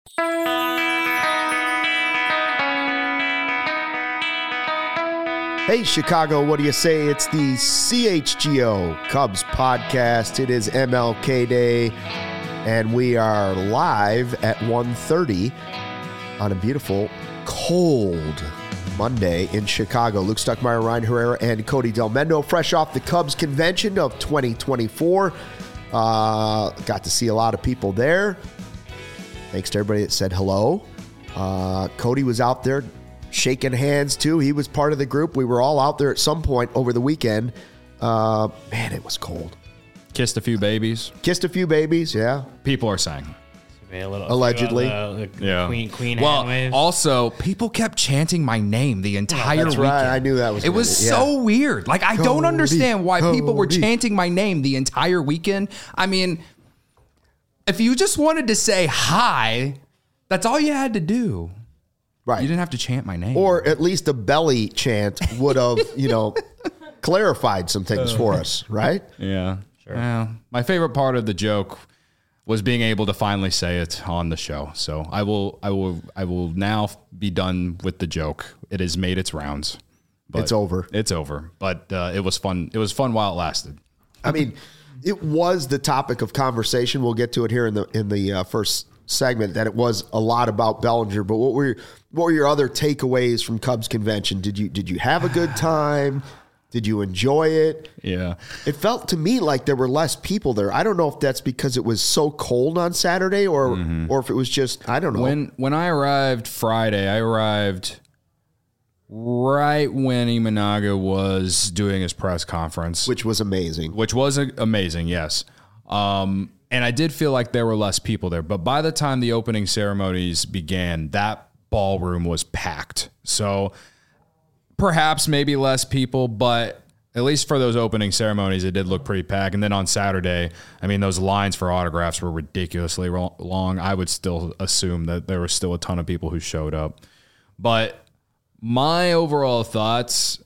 Hey, Chicago, what do you say? It's the CHGO Cubs podcast. It is MLK Day, and we are live at 1:30 on a beautiful, cold Monday in Chicago. Luke Stuckmeyer, Ryan Herrera, and Cody Delmendo, fresh off the Cubs convention of 2024. Got to see a lot of people there. Thanks to everybody that said hello. Cody was out there shaking hands, too. He was part of the group. We were all out there at some point over the weekend. Man, it was cold. Kissed a few babies. Yeah. People are saying. Allegedly. Yeah. Queen well, hand also, people kept chanting my name the entire That's weekend. right. I knew that was It was so weird. Like, I don't understand why people were chanting my name the entire weekend. I mean, if you just wanted to say hi, that's all you had to do. Right. You didn't have to chant my name. Or at least a belly chant would have, clarified some things for us, right? Yeah. Sure. Well, my favorite part of the joke was being able to finally say it on the show. So I will now be done with the joke. It has made its rounds. It's over. It's over. But it was fun. It was fun while it lasted. I mean, it was the topic of conversation. We'll get to it here in the first segment, that it was a lot about Bellinger. But what were your other takeaways from Cubs convention? Did you have a good time? Did you enjoy it? Yeah. It felt to me like there were less people there. I don't know if that's because it was so cold on Saturday or if it was just, I don't know. When I arrived Friday, I arrived right when Imanaga was doing his press conference. Which was amazing. Yes. And I did feel like there were less people there. But by the time the opening ceremonies began, that ballroom was packed. So perhaps maybe less people, but at least for those opening ceremonies, it did look pretty packed. And then on Saturday, I mean, those lines for autographs were ridiculously long. I would still assume that there were still a ton of people who showed up. But my overall thoughts,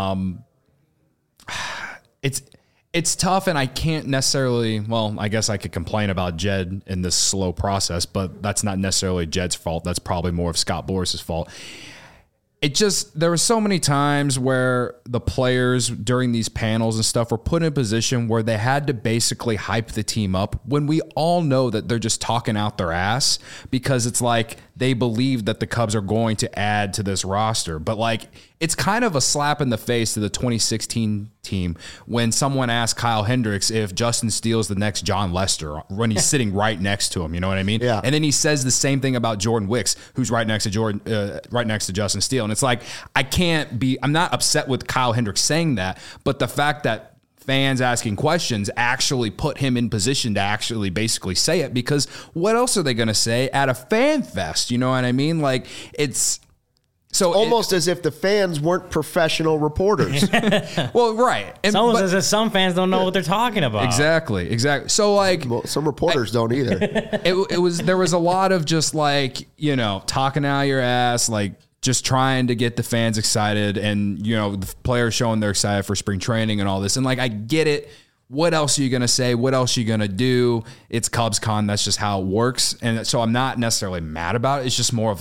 it's tough, and I can't necessarily, I guess I could complain about Jed in this slow process, but that's not necessarily Jed's fault. That's probably more of Scott Boris's fault. There were so many times where the players during these panels and stuff were put in a position where they had to basically hype the team up when we all know that they're just talking out their ass because it's like they believe that the Cubs are going to add to this roster. But it's kind of a slap in the face to the 2016 team when someone asked Kyle Hendricks if Justin Steele's the next John Lester when he's sitting right next to him. You know what I mean? Yeah. And then he says the same thing about Jordan Wicks, who's right next to Justin Steele. And it's like, I'm not upset with Kyle Hendricks saying that, but the fact that fans asking questions actually put him in position to actually basically say it, because what else are they going to say at a fan fest? You know what I mean? It's so almost as if the fans weren't professional reporters. Well, right. It's almost as if some fans don't know what they're talking about. Exactly. So some reporters don't either. There was a lot of just talking out your ass, just trying to get the fans excited and, the players showing they're excited for spring training and all this. And I get it. What else are you going to say? What else are you going to do? It's CubsCon. That's just how it works. And so I'm not necessarily mad about it. It's just more of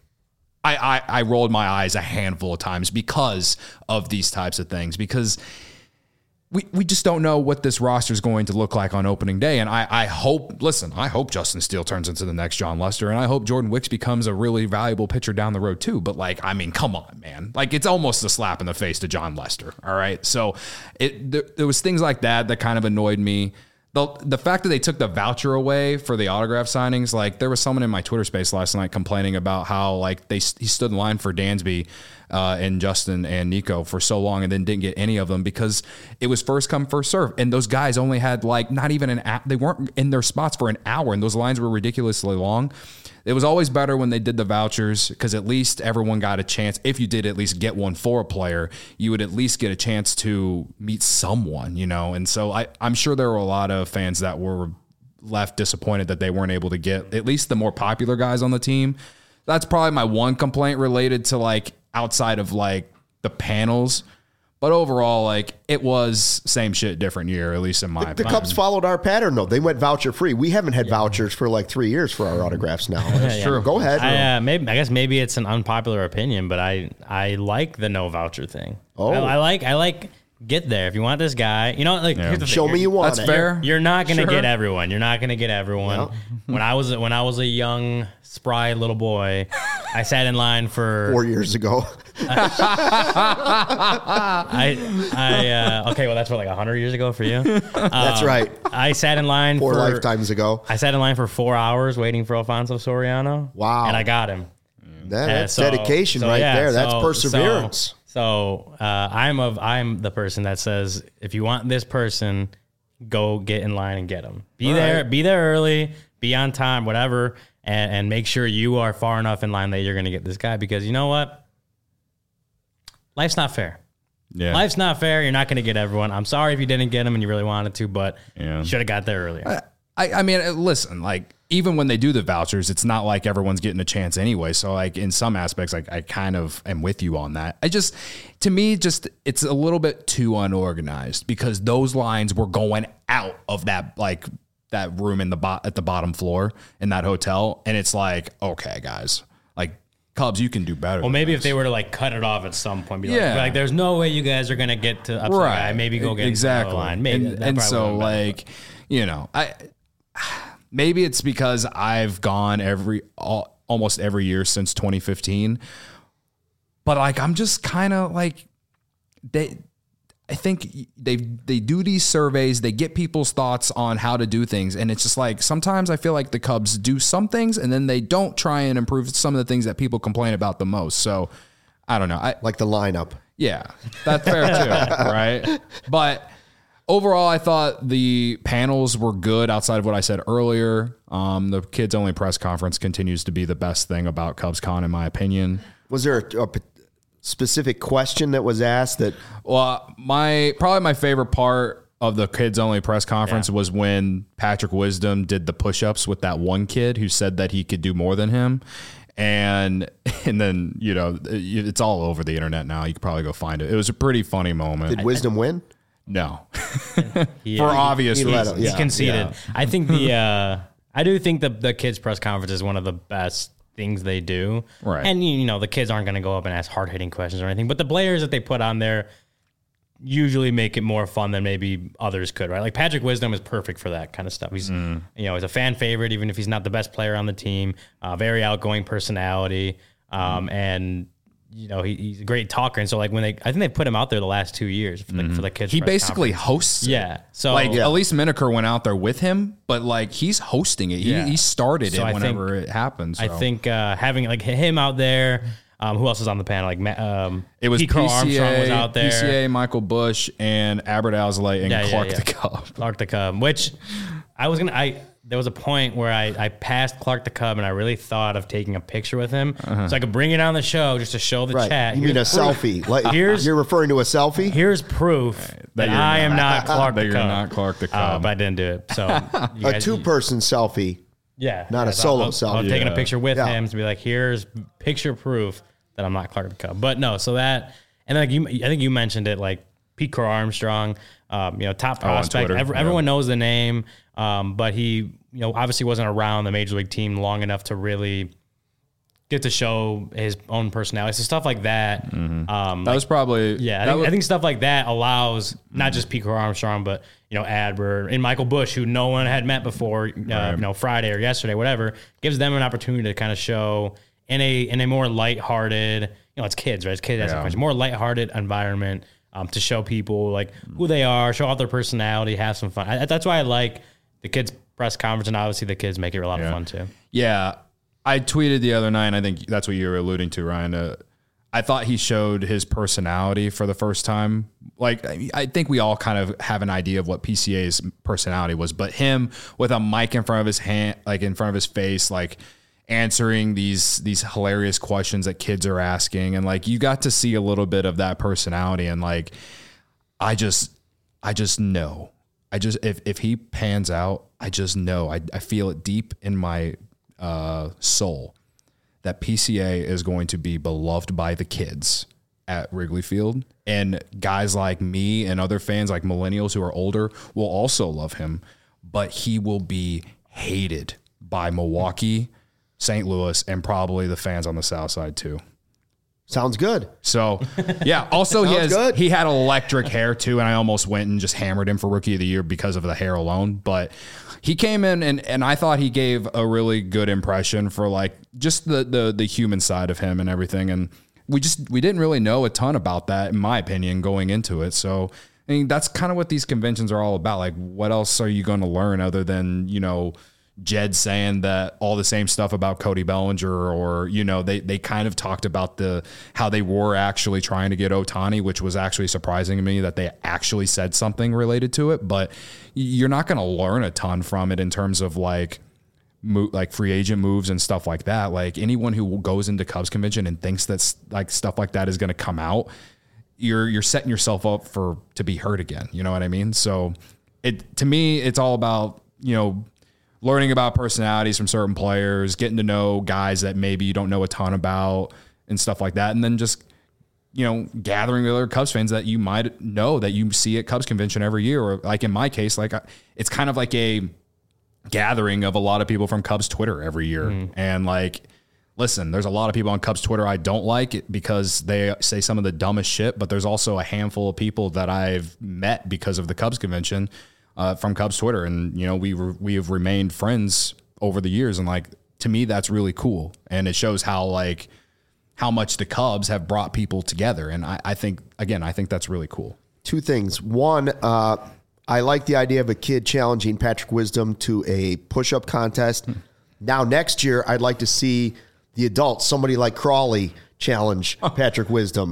I rolled my eyes a handful of times because of these types of things, because we just don't know what this roster is going to look like on opening day. And I hope Justin Steele turns into the next John Lester, and I hope Jordan Wicks becomes a really valuable pitcher down the road too. But come on, man. It's almost a slap in the face to John Lester. All right. So there was things like that kind of annoyed me. The fact that they took the voucher away for the autograph signings, there was someone in my Twitter space last night complaining about how he stood in line for Dansby and Justin and Nico for so long and then didn't get any of them because it was first come, first serve. And those guys only had not even they weren't in their spots for an hour, and those lines were ridiculously long. It was always better when they did the vouchers because at least everyone got a chance. If you did at least get one for a player, you would at least get a chance to meet someone, And so I'm sure there were a lot of fans that were left disappointed that they weren't able to get at least the more popular guys on the team. That's probably my one complaint related to outside of the panels. But overall, like, it was same shit, different year, at least in my The opinion. Cubs followed our pattern, though. They went voucher free. We haven't had vouchers for like 3 years for our autographs now. That's true. Go ahead. I guess maybe it's an unpopular opinion, but I like the no voucher thing. Oh. I like get there if you want this guy. You know, like here's the thing. Show me you want That's it. fair. You're not gonna Sure. get everyone. You're not gonna get everyone. No. When I was a young, spry little boy, I sat in line for 4 years ago. okay, well that's what, like 100 years ago for you. That's right. I sat in line 4 for lifetimes ago. I sat in line for 4 hours waiting for Alfonso Soriano. Wow. And I got him. That's So- dedication so, right yeah, there. That's so- perseverance. So I'm the person that says, if you want this person, go get in line and get them. Be there early, be on time, whatever, and make sure you are far enough in line that you're going to get this guy, because you know what? Life's not fair. Yeah. Life's not fair. You're not going to get everyone. I'm sorry if you didn't get them and you really wanted to, but Yeah. you should have got there earlier. I mean, listen, like, even when they do the vouchers, it's not like everyone's getting a chance anyway. So, like, in some aspects, like, I kind of am with you on that. To me, it's a little bit too unorganized, because those lines were going out of that, like, that room at the bottom floor in that hotel. And it's like, okay, guys, like, Cubs, you can do better. Well, maybe if they were to like cut it off at some point, be Yeah. like, there's no way you guys are going to get to up to the guy. Maybe go get exactly into the line. Maybe and that probably so would've been better. like, you know, maybe it's because I've gone almost every year since 2015, but like, I'm just kind of like, I think they do these surveys, they get people's thoughts on how to do things, and it's just like, sometimes I feel like the Cubs do some things and then they don't try and improve some of the things that people complain about the most. So I don't know. Like the lineup. Yeah, that's fair too, right? But overall, I thought the panels were good outside of what I said earlier. The kids only press conference continues to be the best thing about CubsCon, in my opinion. Was there a specific question that was asked that? Well, probably my favorite part of the kids only press conference was when Patrick Wisdom did the push-ups with that one kid who said that he could do more than him. And then, you know, it's all over the internet now. You could probably go find it. It was a pretty funny moment. Did Wisdom win? No. Yeah. For obvious he let reasons. him, He yeah. conceded. Yeah. I think I do think the kids press conference is one of the best things they do. Right. And you know, the kids aren't going to go up and ask hard-hitting questions or anything, but the players that they put on there usually make it more fun than maybe others could, right? Like Patrick Wisdom is perfect for that kind of stuff. He's, you know, he's a fan favorite, even if he's not the best player on the team, very outgoing personality. And you know, he's a great talker. And so like I think they put him out there the last 2 years for the kids. He press basically conference. hosts it. Yeah. So Like, Elise Miniker went out there with him, but like, he's hosting it. Yeah. He started So it I whenever think- it happens. I think having like him out there, who else was on the panel? Like it was Pete Crow PCA, Armstrong was out there. PCA, Michael Bush, and Albert Alzolay, and Clark the Cub. Clark the Cub, which there was a point where I passed Clark the Cub and I really thought of taking a picture with him so I could bring it on the show just to show the Right. chat. You mean a Here's proof. selfie? Like, Here's- you're referring to a selfie? Here's proof that you're I am not Clark that the you're Cub. not Clark the Cub. But I didn't do it. So you A guys- two-person selfie. yeah, not a so solo I'm selfie. taking a Yeah. picture with Yeah. him to be like, here's picture proof that I'm not Clark the Cub. But no, so that, and then like I think you mentioned it, like Pete Crow Armstrong, you know, top prospect. Twitter, Everyone knows the name, but he, you know, obviously wasn't around the major league team long enough to really get to show his own personality. So stuff like that. That was probably I think stuff like that allows not just Pete Crow Armstrong, but you know, Adbert and Michael Bush, who no one had met before, you know, Friday or yesterday, whatever, gives them an opportunity to kind of show in a more lighthearted, you know, it's kids, right? It's kids asking questions, more lighthearted environment to show people like who they are, show off their personality, have some fun. That's why I like the kids press conference, and obviously the kids make it a lot of fun too. Yeah. I tweeted the other night, and I think that's what you were alluding to, Ryan. I thought he showed his personality for the first time. Like, I think we all kind of have an idea of what PCA's personality was, but him with a mic in front of his hand, like in front of his face, like answering these hilarious questions that kids are asking. And like, you got to see a little bit of that personality. And like, I just know, if he pans out, I just know, I feel it deep in my soul that PCA is going to be beloved by the kids at Wrigley Field. And guys like me and other fans like millennials who are older will also love him, but he will be hated by Milwaukee, St. Louis, and probably the fans on the South Side too. Sounds good. So, yeah. Also, he had electric hair too, and I almost went and just hammered him for Rookie of the Year because of the hair alone. But he came in, and I thought he gave a really good impression for like just the human side of him and everything. And we didn't really know a ton about that, in my opinion, going into it. So, I mean, that's kind of what these conventions are all about. Like, what else are you going to learn other than, Jed saying that all the same stuff about Cody Bellinger, or, they kind of talked about how they were actually trying to get Ohtani, which was actually surprising to me that they actually said something related to it. But you're not going to learn a ton from it in terms of like free agent moves and stuff like that. Like anyone who goes into Cubs convention and thinks that's like stuff like that is going to come out, you're setting yourself up to be hurt again. You know what I mean? So to me, it's all about, learning about personalities from certain players, getting to know guys that maybe you don't know a ton about and stuff like that. And then just, gathering with other Cubs fans that you might know that you see at Cubs convention every year. Or like in my case, like it's kind of like a gathering of a lot of people from Cubs Twitter every year. Mm. And like, listen, there's a lot of people on Cubs Twitter I don't like it because they say some of the dumbest shit, but there's also a handful of people that I've met because of the Cubs convention from Cubs Twitter. And, we have remained friends over the years. And like, to me, that's really cool. And it shows how much the Cubs have brought people together. And I think that's really cool. Two things. One, I like the idea of a kid challenging Patrick Wisdom to a push-up contest. Now, next year, I'd like to see the adults, somebody like Crawley, challenge Patrick Wisdom.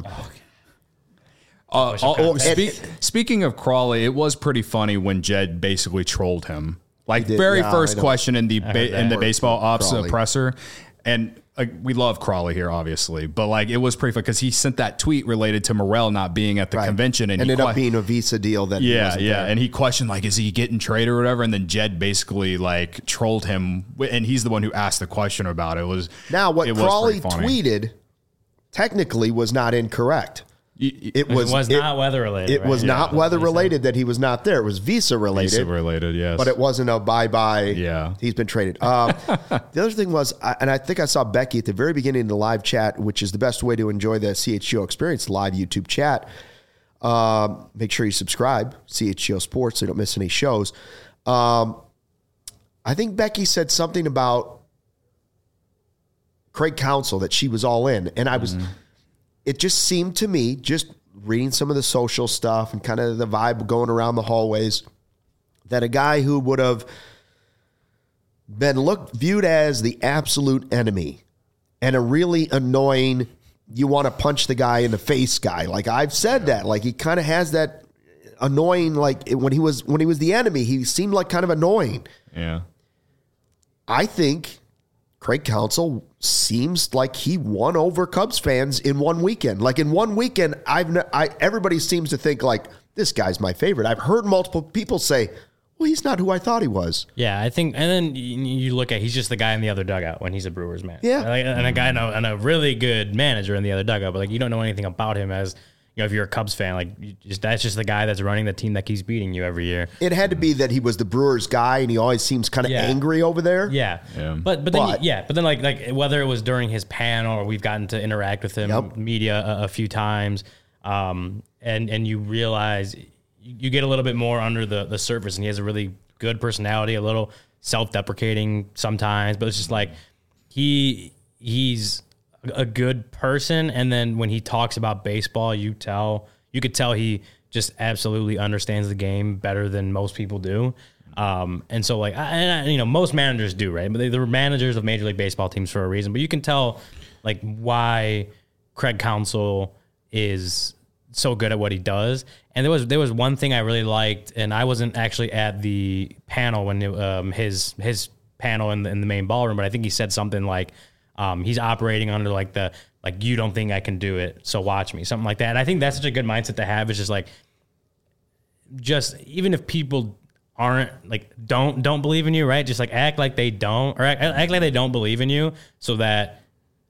Speaking of Crawley, it was pretty funny when Jed basically trolled him. Like first question in the baseball ops presser, and we love Crawley here, obviously, but like it was pretty funny because he sent that tweet related to Morel not being at the convention, and ended up being a visa deal that and he questioned like, is he getting traded or whatever, and then Jed basically like trolled him, and he's the one who asked the question about it. What Crawley tweeted technically was not incorrect. It was not weather related. It was not weather related that he was not there. It was visa related. Visa related, yes. But it wasn't a bye-bye. Yeah. He's been traded. The other thing was, and I think I saw Becky at the very beginning of the live chat, which is the best way to enjoy the CHGO experience, live YouTube chat. Make sure you subscribe, CHGO Sports, so you don't miss any shows. I think Becky said something about Craig Counsell, that she was all in. And I was... It just seemed to me, just reading some of the social stuff and kind of the vibe going around the hallways, that a guy who would have been viewed as the absolute enemy and a really annoying, you want to punch the guy in the face guy. Like I've said that, like he kind of has that annoying, like when he was the enemy, he seemed like kind of annoying. Yeah. I think Craig Counsell seems like he won over Cubs fans in one weekend. Like in one weekend, everybody seems to think like, this guy's my favorite. I've heard multiple people say, well, he's not who I thought he was. Yeah, I think, and then you look at, he's just the guy in the other dugout when he's a Brewers man. Yeah. And a guy and a really good manager in the other dugout, but like you don't know anything about him as, if you're a Cubs fan, like that's just the guy that's running the team that keeps beating you every year. It had to be that he was the Brewers guy, and he always seems kind of angry over there. Yeah. But then like whether it was during his panel or we've gotten to interact with him, media a few times, and you realize you get a little bit more under the surface, and he has a really good personality, a little self-deprecating sometimes, but it's just like he's a good person, and then when he talks about baseball, you could tell he just absolutely understands the game better than most people do. And so like, most managers do, right? But they're managers of Major League Baseball teams for a reason. But you can tell like why Craig Counsell is so good at what he does. And there was one thing I really liked, and I wasn't actually at the panel when his panel in the main ballroom, but I think he said something like, he's operating under you don't think I can do it, so watch me, something like that. And I think that's such a good mindset to have. It's just even if people aren't like, don't believe in you, right? Just like act like they don't, or act like they don't believe in you, so that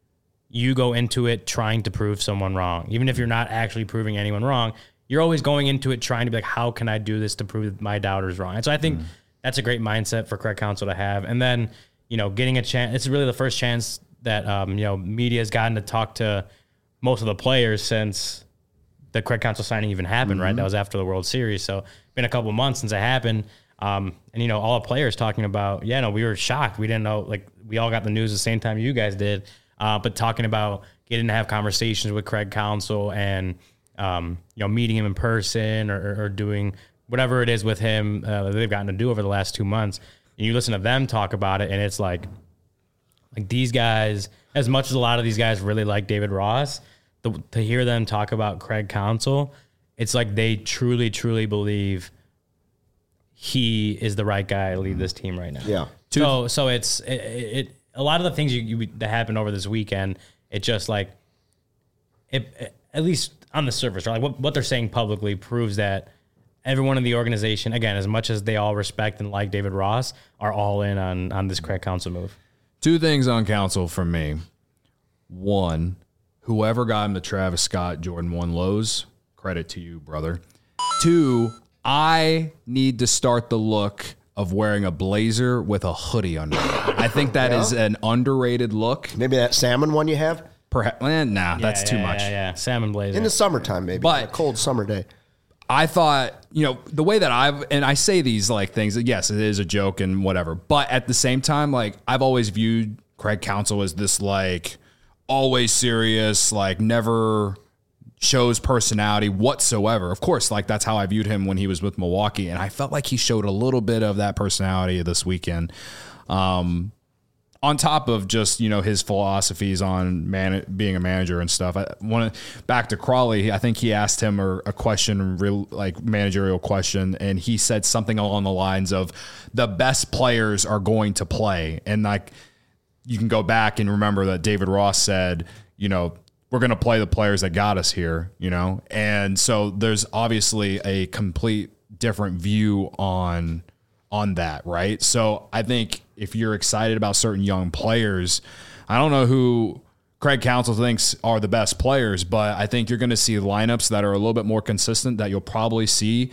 you go into it trying to prove someone wrong. Even if you're not actually proving anyone wrong, you're always going into it trying to be like, how can I do this to prove my doubters wrong? And so I think that's a great mindset for Craig Counsell to have. And then, getting a chance, it's really the first chance that, media has gotten to talk to most of the players since the Craig Counsell signing even happened, right? That was after the World Series. So been a couple of months since it happened. And, all the players talking about, we were shocked. We didn't know, like, we all got the news the same time you guys did. But talking about getting to have conversations with Craig Counsell and, meeting him in person or doing whatever it is with him that they've gotten to do over the last 2 months. And you listen to them talk about it, and it's like these guys, as much as a lot of these guys really like David Ross, to hear them talk about Craig Counsell, it's like they truly, truly believe he is the right guy to lead this team right now. Yeah. So it's a lot of the things that happened over this weekend, it just like it at least on the surface, or like what they're saying publicly proves that everyone in the organization, again, as much as they all respect and like David Ross, are all in on this Craig Counsell move. 2 things on Counsell from me. 1, whoever got him the Travis Scott Jordan 1 lows, credit to you, brother. 2, I need to start the look of wearing a blazer with a hoodie under it. I think that is an underrated look. Maybe that salmon one you have? Perhaps, that's too much. Yeah, salmon blazer. In the summertime, maybe. But a cold summer day. I thought, the way that I say these like things, yes, it is a joke and whatever. But at the same time, like I've always viewed Craig Counsell as this like always serious, like never shows personality whatsoever. Of course, like that's how I viewed him when he was with Milwaukee. And I felt like he showed a little bit of that personality this weekend. On top of just, his philosophies on being a manager and stuff. Back to Crawley, I think he asked him a question, like managerial question, and he said something along the lines of the best players are going to play. And like you can go back and remember that David Ross said, we're going to play the players that got us here, And so there's obviously a complete different view on that, right? So I think if you're excited about certain young players, I don't know who Craig Counsell thinks are the best players, but I think you're going to see lineups that are a little bit more consistent, that you'll probably see,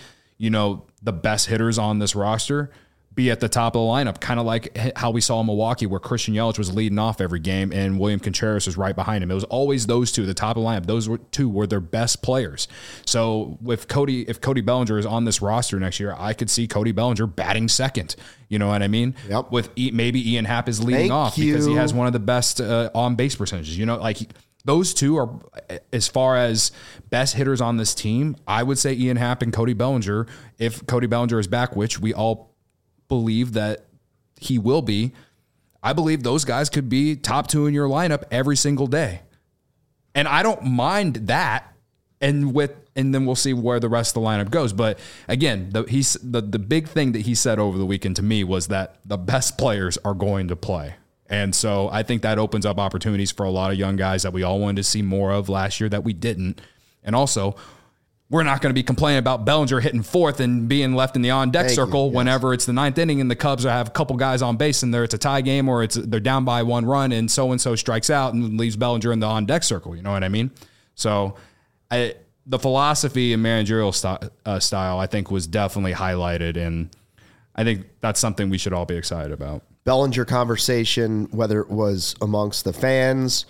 the best hitters on this roster be at the top of the lineup, kind of like how we saw in Milwaukee where Christian Yelich was leading off every game and William Contreras was right behind him. It was always those two, the top of the lineup. Those two were their best players. So if Cody Bellinger is on this roster next year, I could see Cody Bellinger batting second. You know what I mean? Yep. With maybe Ian Happ is leading off because he has one of the best on base percentages. Those two are, as far as best hitters on this team, I would say Ian Happ and Cody Bellinger. If Cody Bellinger is back, which we all believe that he will be, I believe those guys could be top 2 in your lineup every single day. And I don't mind that. And then we'll see where the rest of the lineup goes. But again, the big thing that he said over the weekend to me was that the best players are going to play. And so I think that opens up opportunities for a lot of young guys that we all wanted to see more of last year that we didn't. And also, we're not going to be complaining about Bellinger hitting 4th and being left in the on-deck circle whenever it's the 9th inning and the Cubs have a couple guys on base and it's a tie game or they're down by 1 run and so strikes out and leaves Bellinger in the on-deck circle. You know what I mean? So the philosophy and managerial style, I think, was definitely highlighted, and I think that's something we should all be excited about. Bellinger conversation, whether it was amongst the fans,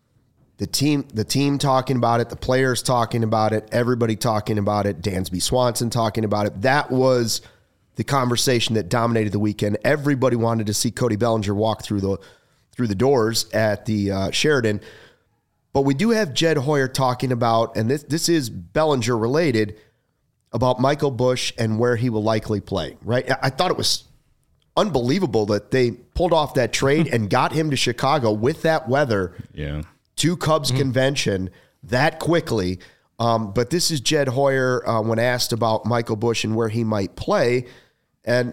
the team talking about it, the players talking about it, everybody talking about it, Dansby Swanson talking about it. That was the conversation that dominated the weekend. Everybody wanted to see Cody Bellinger walk through the doors at the Sheraton. But we do have Jed Hoyer talking about, and this is Bellinger related, about Michael Busch and where he will likely play, right? I thought it was unbelievable that they pulled off that trade and got him to Chicago with that weather. Yeah. To Cubs convention that quickly. But this is Jed Hoyer when asked about Michael Busch and where he might play. And,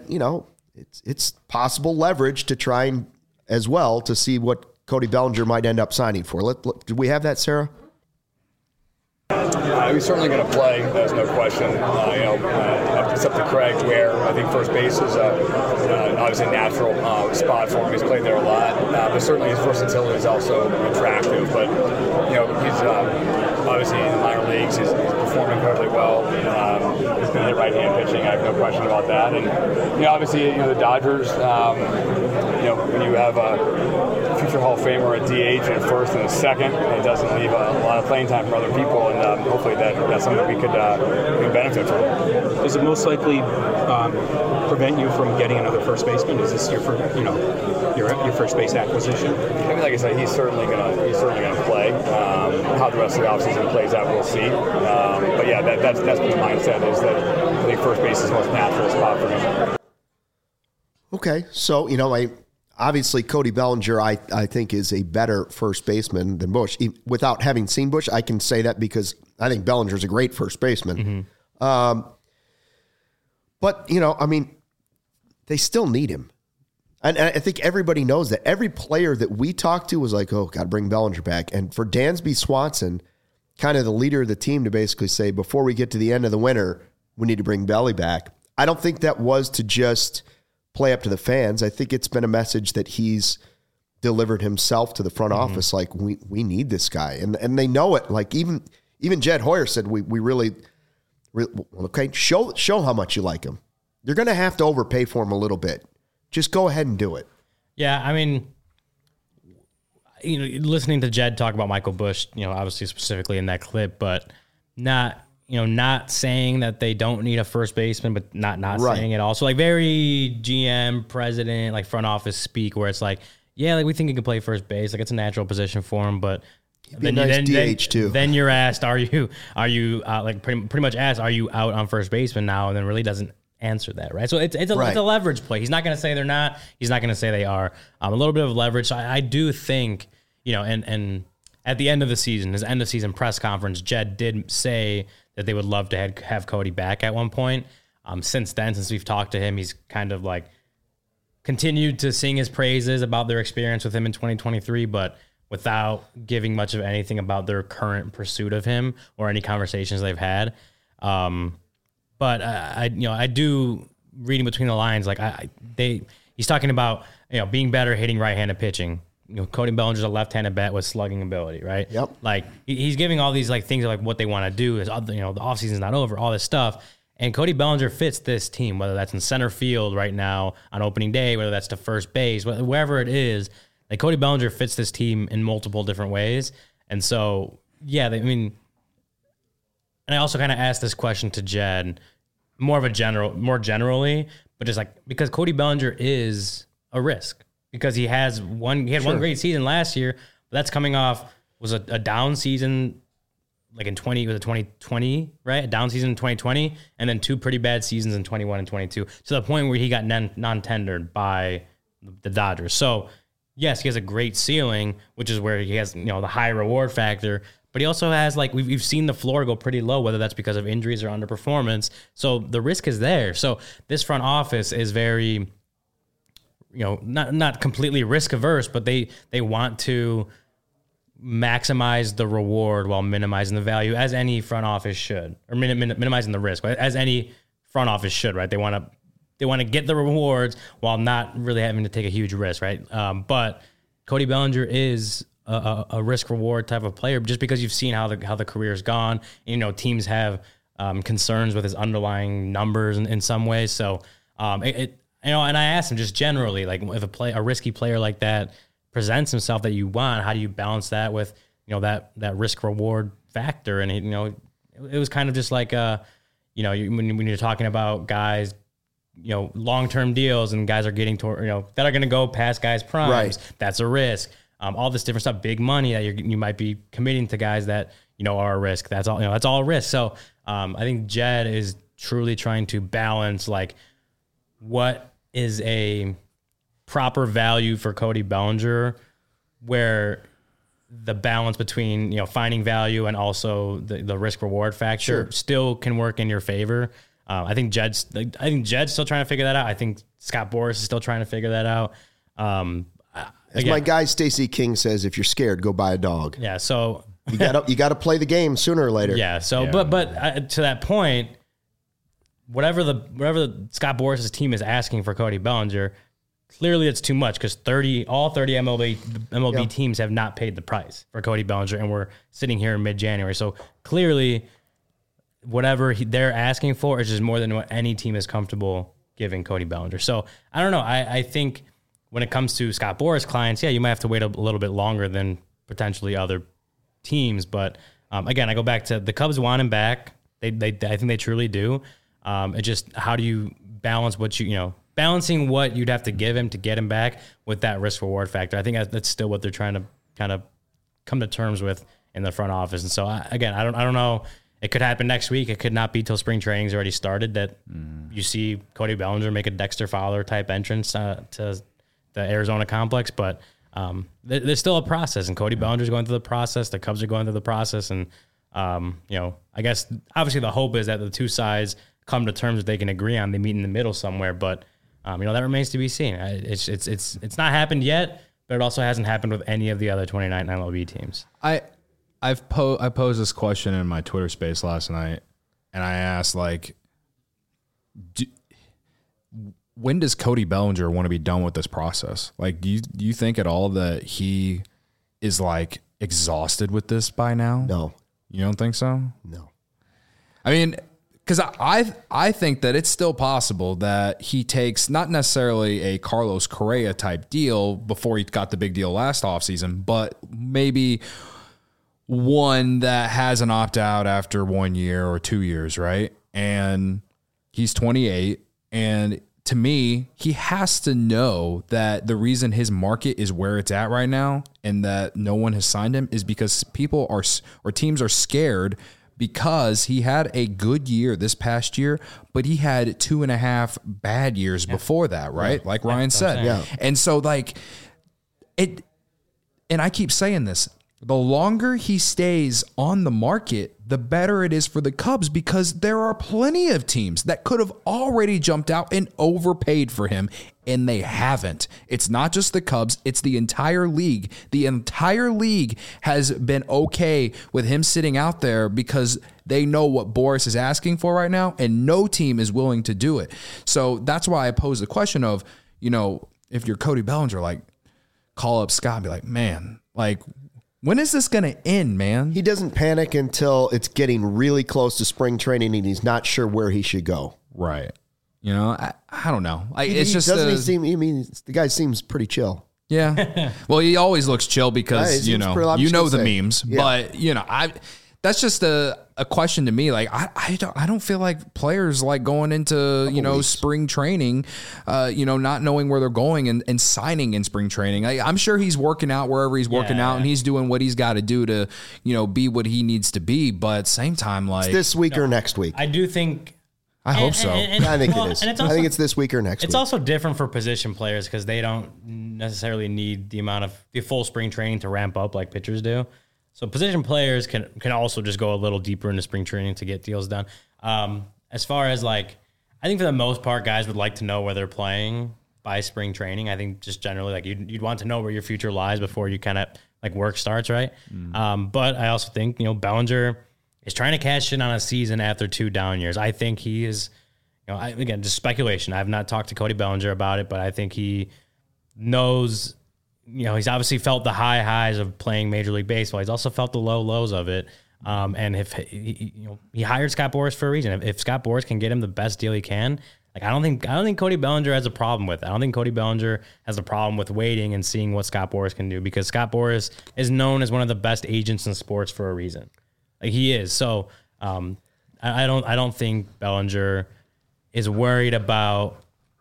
it's possible leverage to try and as well to see what Cody Bellinger might end up signing for. Do we have that, Sarah? He's certainly going to play. There's no question. It's up to Craig where I think first base is obviously a natural spot for him. He's played there a lot, but certainly his versatility is also attractive. But he's obviously in the minor leagues. He's performing incredibly well. He's going to hit right-hand pitching. I have no question about that. And obviously, the Dodgers. When you have a future Hall of Famer at DH and first and a second, it doesn't leave a lot of playing time for other people, and hopefully that's something that we could benefit from. Does it most likely prevent you from getting another first baseman? Is this your first base acquisition? I mean, like I said, he's certainly gonna play. How the rest of the offseason plays out, we'll see. But yeah, that's been the mindset, is that I think first base is the most natural spot for him. Okay, so obviously Cody Bellinger, I think, is a better first baseman than Bush. Without having seen Bush, I can say that because I think Bellinger's a great first baseman. Mm-hmm. But they still need him. And I think everybody knows that. Every player that we talked to was like, oh, got to bring Bellinger back. And for Dansby Swanson, kind of the leader of the team, to basically say, before we get to the end of the winter, we need to bring Belly back. I don't think that was to just play up to the fans. I think it's been a message that he's delivered himself to the front office. Like, we need this guy. And they know it. Like, even Jed Hoyer said, we really, okay, show how much you like him. You're going to have to overpay for him a little bit. Just go ahead and do it. Yeah, I mean, listening to Jed talk about Michael Bush, obviously specifically in that clip, but not saying that they don't need a first baseman, but not right. Saying it all. So like very GM, president, like front office speak, where it's like, yeah, like we think he can play first base, like it's a natural position for him, but then DH too. Then you're asked, are you like pretty much asked, are you out on first baseman now? And then really doesn't answer that, right? So it's a leverage play. He's not going to say they're not. He's not going to say they are. A little bit of leverage. So I do think, and at the end of the season, his end of season press conference, Jed did say that they would love to have Cody back at one point. Since then, since we've talked to him, he's kind of like continued to sing his praises about their experience with him in 2023, but without giving much of anything about their current pursuit of him or any conversations they've had. But I do, reading between the lines, like he's talking about being better hitting right-handed pitching. Cody Bellinger's a left-handed bat with slugging ability, right? Yep. Like he's giving all these like things like what they want to do is the offseason's not over, all this stuff. And Cody Bellinger fits this team, whether that's in center field right now on opening day, whether that's to first base, wherever it is. Like Cody Bellinger fits this team in multiple different ways. And so, yeah, and I also kind of asked this question to Jed, more generally, but just like, because Cody Bellinger is a risk because he had one great season last year, but that's coming off was a down season like in 2020, right? A down season in 2020, and then two pretty bad seasons in 21 and 22, to the point where he got non-tendered by the Dodgers. So yes, he has a great ceiling, which is where he has the high reward factor. But he also has, like, we've seen the floor go pretty low, whether that's because of injuries or underperformance. So the risk is there. So this front office is very, not completely risk averse, but they want to maximize the reward while minimizing the value, as any front office should, or minimizing the risk, as any front office should, right? They want to get the rewards while not really having to take a huge risk, right? But Cody Bellinger is a risk reward type of player, just because you've seen how the career's gone. Teams have concerns with his underlying numbers in some ways. So and I asked him just generally, like, if a risky player like that presents himself that you want, how do you balance that with that risk reward factor? And it was kind of just like when you're talking about guys, long-term deals, and guys are getting toward that are going to go past guys' primes. Right. That's a risk. All this different stuff, big money that you might be committing to guys that are a risk. That's all. That's all a risk. So I think Jed is truly trying to balance, like, what is a proper value for Cody Bellinger, where the balance between finding value and also the risk reward factor still can work in your favor. I think Jed's still trying to figure that out. I think Scott Boras is still trying to figure that out. As my guy Stacey King says, if you're scared, go buy a dog. Yeah, so You got to play the game sooner or later. Yeah. So, but to that point, whatever the Scott Boras' team is asking for Cody Bellinger, clearly it's too much because all 30 MLB teams have not paid the price for Cody Bellinger, and we're sitting here in mid-January. So clearly, whatever they're asking for is just more than what any team is comfortable giving Cody Bellinger. So I don't know. I think when it comes to Scott Boras clients, you might have to wait a little bit longer than potentially other teams. But again, I go back to the Cubs want him back. I think they truly do. It just, how do you balance what balancing what you'd have to give him to get him back with that risk reward factor? I think that's still what they're trying to kind of come to terms with in the front office. And so I don't know. It could happen next week. It could not be till spring training's already started that you see Cody Bellinger make a Dexter Fowler type entrance to the Arizona complex. But there's still a process, and Cody Bellinger's going through the process. The Cubs are going through the process, and I guess obviously the hope is that the two sides come to terms that they can agree on. They meet in the middle somewhere, but that remains to be seen. It's not happened yet, but it also hasn't happened with any of the other 29 MLB teams. I posed this question in my Twitter space last night, and I asked, when does Cody Bellinger want to be done with this process? Like, do you think at all that he is exhausted with this by now? No. You don't think so? No. I mean, because I think that it's still possible that he takes not necessarily a Carlos Correa type deal before he got the big deal last offseason, but maybe one that has an opt-out after 1 year or 2 years, right? And he's 28, and to me, he has to know that the reason his market is where it's at right now and that no one has signed him is because teams are scared because he had a good year this past year, but he had 2.5 bad years before that, right? Like Ryan said. Yeah. And so and I keep saying this, the longer he stays on the market, the better it is for the Cubs because there are plenty of teams that could have already jumped out and overpaid for him, and they haven't. It's not just the Cubs, it's the entire league. The entire league has been okay with him sitting out there because they know what Boras is asking for right now, and no team is willing to do it. So that's why I pose the question of, if you're Cody Bellinger, call up Scott and be like, man, when is this going to end, man? He doesn't panic until it's getting really close to spring training and he's not sure where he should go. Right. I don't know. The guy seems pretty chill. Yeah. Well, he always looks chill because, the memes. Yeah. But, that's just a question to me. I don't feel like players going into, spring training, not knowing where they're going and signing in spring training. I'm sure he's working out wherever he's working out and he's doing what he's got to do to, be what he needs to be. But at the same time, it's this week or next week. I do think. I hope so. I think it is. I think it's this week or next week. It's also different for position players because they don't necessarily need the full spring training to ramp up like pitchers do. So position players can also just go a little deeper into spring training to get deals done. As far as I think for the most part, guys would like to know where they're playing by spring training. I think just generally you'd want to know where your future lies before you kind of work starts, right? But I also think Bellinger is trying to cash in on a season after 2 down years. I think he is, again, just speculation. I've not talked to Cody Bellinger about it, but I think he knows. He's obviously felt the high highs of playing Major League Baseball. He's also felt the low lows of it. And if he hired Scott Boras for a reason. If Scott Boras can get him the best deal he can, I don't think Cody Bellinger has a problem with it. I don't think Cody Bellinger has a problem with waiting and seeing what Scott Boras can do because Scott Boras is known as one of the best agents in sports for a reason. He is. So I don't think Bellinger is worried about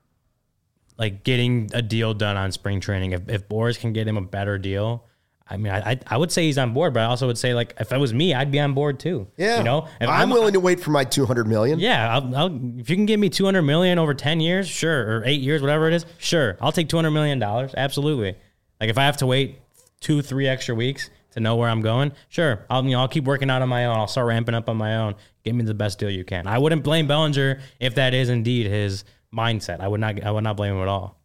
getting a deal done on spring training. If Boras can get him a better deal, I mean, I would say he's on board, but I also would say if it was me, I'd be on board too. Yeah, if I'm willing to wait for my $200 million. Yeah, if you can give me $200 million over 10 years, sure, or 8 years, whatever it is, sure, I'll take $200 million. Absolutely. If I have to wait 2-3 extra weeks to know where I'm going, sure, I'll keep working out on my own. I'll start ramping up on my own. Give me the best deal you can. I wouldn't blame Bellinger if that is indeed his mindset. I would not blame him at all.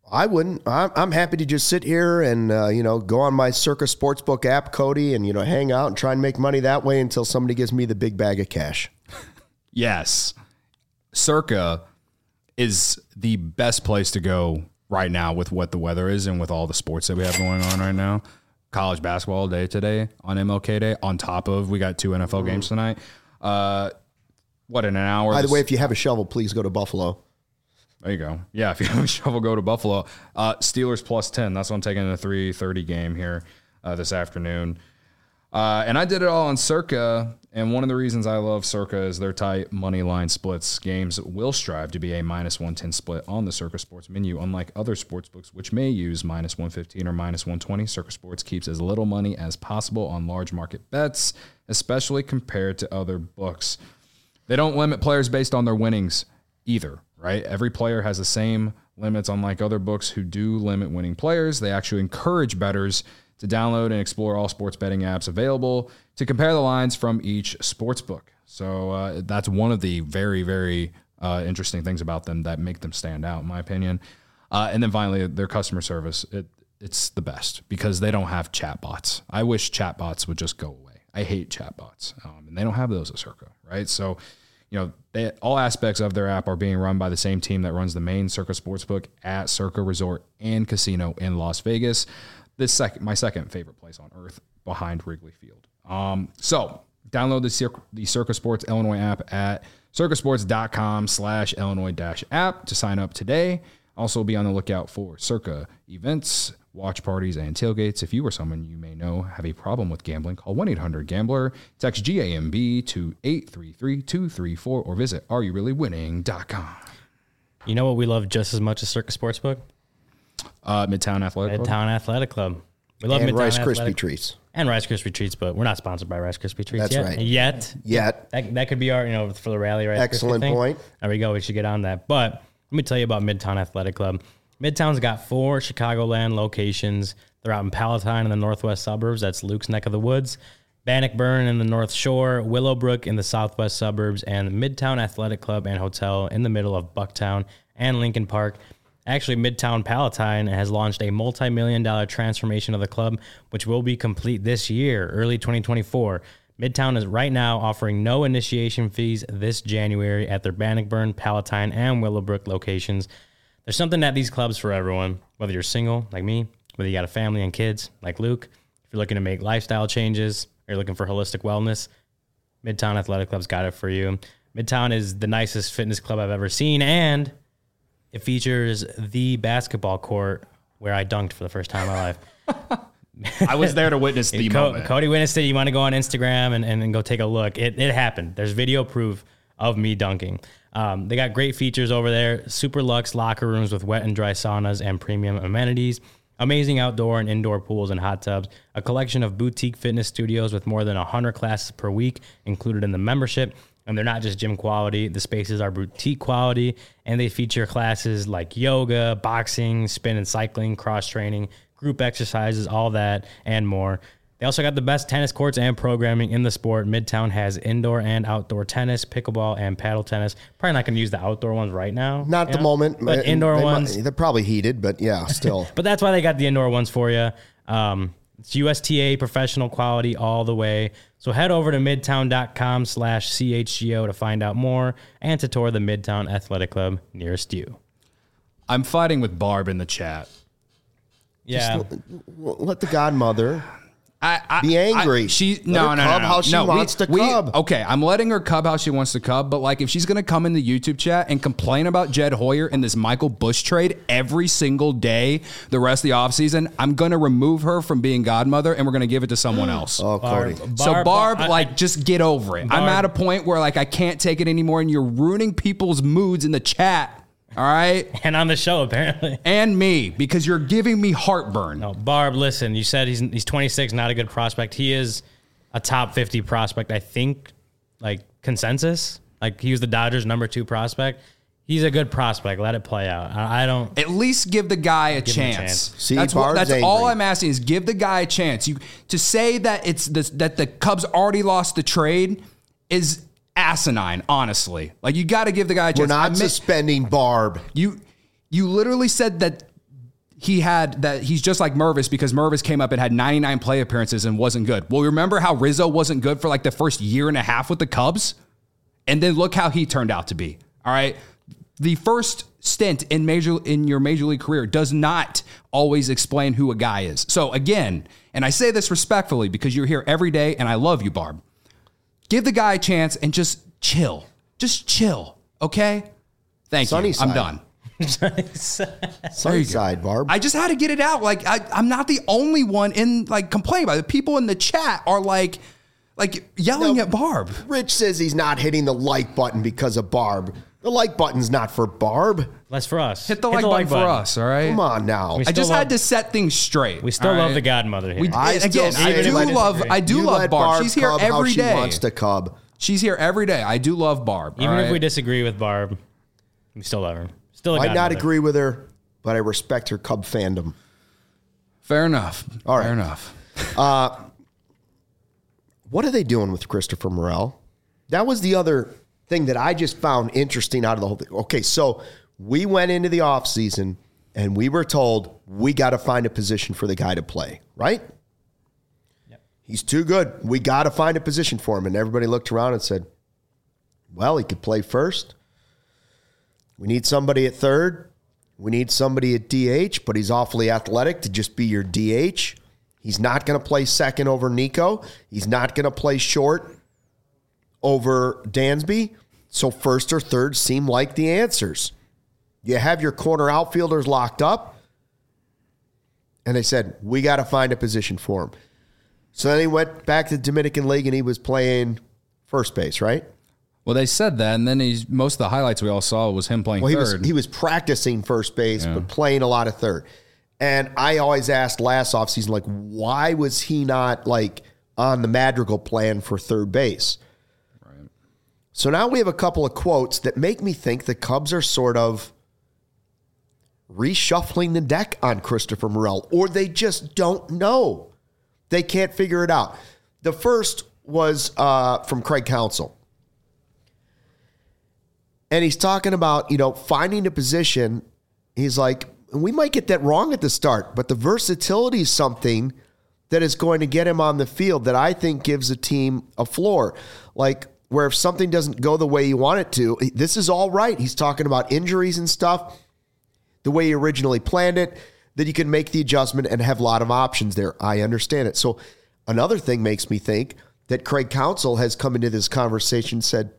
I wouldn't. I'm happy to just sit here and, go on my Circa Sportsbook app, Cody, and, hang out and try and make money that way until somebody gives me the big bag of cash. Yes. Circa is the best place to go right now with what the weather is and with all the sports that we have going on right now. College basketball day today on MLK Day. On top of, we got 2 NFL games tonight. In an hour? By the way, if you have a shovel, please go to Buffalo. There you go. Yeah, if you have a shovel, go to Buffalo. Steelers +10. That's what I'm taking in the 3:30 game here this afternoon. And I did it all on Circa, and one of the reasons I love Circa is their tight money line splits. Games will strive to be a -110 split on the Circa Sports menu, unlike other sportsbooks which may use -115 or -120. Circa Sports keeps as little money as possible on large market bets, especially compared to other books. They don't limit players based on their winnings either, right? Every player has the same limits, unlike other books who do limit winning players. They actually encourage bettors to download and explore all sports betting apps available to compare the lines from each sports book. So that's one of the very, very interesting things about them that make them stand out, in my opinion. And then finally, their customer service. It's the best because they don't have chatbots. I wish chatbots would just go away. I hate chatbots, and they don't have those at Circa, right? So, all aspects of their app are being run by the same team that runs the main Circa Sportsbook at Circa Resort and Casino in Las Vegas. My second favorite place on earth behind Wrigley Field. So download the Circa Sports Illinois app at circasports.com/Illinois-app to sign up today. Also be on the lookout for Circa events, watch parties, and tailgates. If you or someone you may know have a problem with gambling, call 1-800-GAMBLER, text GAMB to 833-234, or visit areyoureallywinning.com. You know what we love just as much as Circa Sportsbook? Midtown Athletic Club. Midtown Athletic Club. We love and Midtown Rice Athletic. Krispie Treats. And Rice Krispie Treats, but we're not sponsored by Rice Krispie Treats That's yet. right. Yet. That could be our, for the rally Rice Excellent Krispie thing. point. There we go. We should get on that. But let me tell you about Midtown Athletic Club. Midtown's got 4 Chicagoland locations. They're out in Palatine in the northwest suburbs. That's Luke's neck of the woods. Bannockburn in the North Shore, Willowbrook in the southwest suburbs, and Midtown Athletic Club and Hotel in the middle of Bucktown and Lincoln Park. Actually, Midtown Palatine has launched a multi-million-dollar transformation of the club, which will be complete this year, early 2024. Midtown is right now offering no initiation fees this January at their Bannockburn, Palatine, and Willowbrook locations. There's something at these clubs for everyone, whether you're single, like me, whether you got a family and kids, like Luke, if you're looking to make lifestyle changes, or you're looking for holistic wellness, Midtown Athletic Club's got it for you. Midtown is the nicest fitness club I've ever seen, and it features the basketball court where I dunked for the first time in my life. I was there to witness the moment. Cody witnessed it. You want to go on Instagram and go take a look. It happened. There's video proof of me dunking. They got great features over there. Super luxe locker rooms with wet and dry saunas and premium amenities. Amazing outdoor and indoor pools and hot tubs. A collection of boutique fitness studios with more than 100 classes per week included in the membership. And they're not just gym quality. The spaces are boutique quality, and they feature classes like yoga, boxing, spin and cycling, cross-training, group exercises, all that, and more. They also got the best tennis courts and programming in the sport. Midtown has indoor and outdoor tennis, pickleball, and paddle tennis. Probably not going to use the outdoor ones right now. Not at the moment. But indoor ones. They're probably heated, but yeah, still. But that's why they got the indoor ones for you. It's USTA professional quality all the way. So head over to midtown.com/CHGO to find out more and to tour the Midtown Athletic Club nearest you. I'm fighting with Barb in the chat. Yeah. Let the godmother be angry. No. How she wants to cub. Okay, I'm letting her cub how she wants to cub, but like if she's going to come in the YouTube chat and complain about Jed Hoyer and this Michael Bush trade every single day the rest of the offseason, I'm going to remove her from being godmother and we're going to give it to someone else. Oh, Cody. Barb, just get over it. I'm at a point where like I can't take it anymore and you're ruining people's moods in the chat. All right. And on the show, apparently. And me, because you're giving me heartburn. No, Barb, listen, you said he's 26, not a good prospect. He is a top 50 prospect, I think, like consensus. Like he was the Dodgers' number 2 prospect. He's a good prospect. Let it play out. I don't. At least give the guy a chance. See, that's all I'm asking is give the guy a chance. To say that that the Cubs already lost the trade is asinine, honestly. Like you got to give the guy a chance. We're not suspending Barb. You literally said that he's just like Mervis because Mervis came up and had 99 play appearances and wasn't good. Well, remember how Rizzo wasn't good for like the first year and a half with the Cubs? And then look how he turned out to be. All right. The first stint in your major league career does not always explain who a guy is. So again, and I say this respectfully because you're here every day and I love you, Barb. Give the guy a chance and just chill. Just chill. Okay? Thank Sunny you. side. I'm done. Sunny side, Barb. I just had to get it out. Like I'm not the only one in like complaining about it. People in the chat are like yelling at Barb. Rich says he's not hitting the like button because of Barb. The like button's not for Barb. That's for us. Hit the like button for us, all right? Come on now. I just had to set things straight. We still all love right? the godmother here. I do love Barb. She's here every day. She wants to cub. She's here every day. I do love Barb. Even if we disagree with Barb, we still love her. Still a I might not godmother. agree with her, but I respect her Cub fandom. Fair enough. All right. Fair enough. What are they doing with Christopher Morel? That was the other thing that I just found interesting out of the whole thing. Okay, so we went into the offseason and we were told we got to find a position for the guy to play, right? Yep. He's too good. We got to find a position for him. And everybody looked around and said, well, he could play first. We need somebody at third. We need somebody at DH, but he's awfully athletic to just be your DH. He's not going to play second over Nico. He's not going to play short over Dansby. So first or third seem like the answers. You have your corner outfielders locked up. And they said, we got to find a position for him. So then he went back to the Dominican League and he was playing first base, right? Well, they said that, and then most of the highlights we all saw was him playing third. He was practicing first base, but playing a lot of third. And I always asked last offseason, like, why was he not like on the Madrigal plan for third base? Right. So now we have a couple of quotes that make me think the Cubs are sort of reshuffling the deck on Christopher Morel, or they just don't know. They can't figure it out. The first was from Craig Counsell. And he's talking about, finding a position. He's like, we might get that wrong at the start, but the versatility is something that is going to get him on the field that I think gives a team a floor. Like, where if something doesn't go the way you want it to, this is all right. He's talking about injuries and stuff, the way he originally planned it, that you can make the adjustment and have a lot of options there. I understand it. So another thing makes me think that Craig Counsell has come into this conversation and said,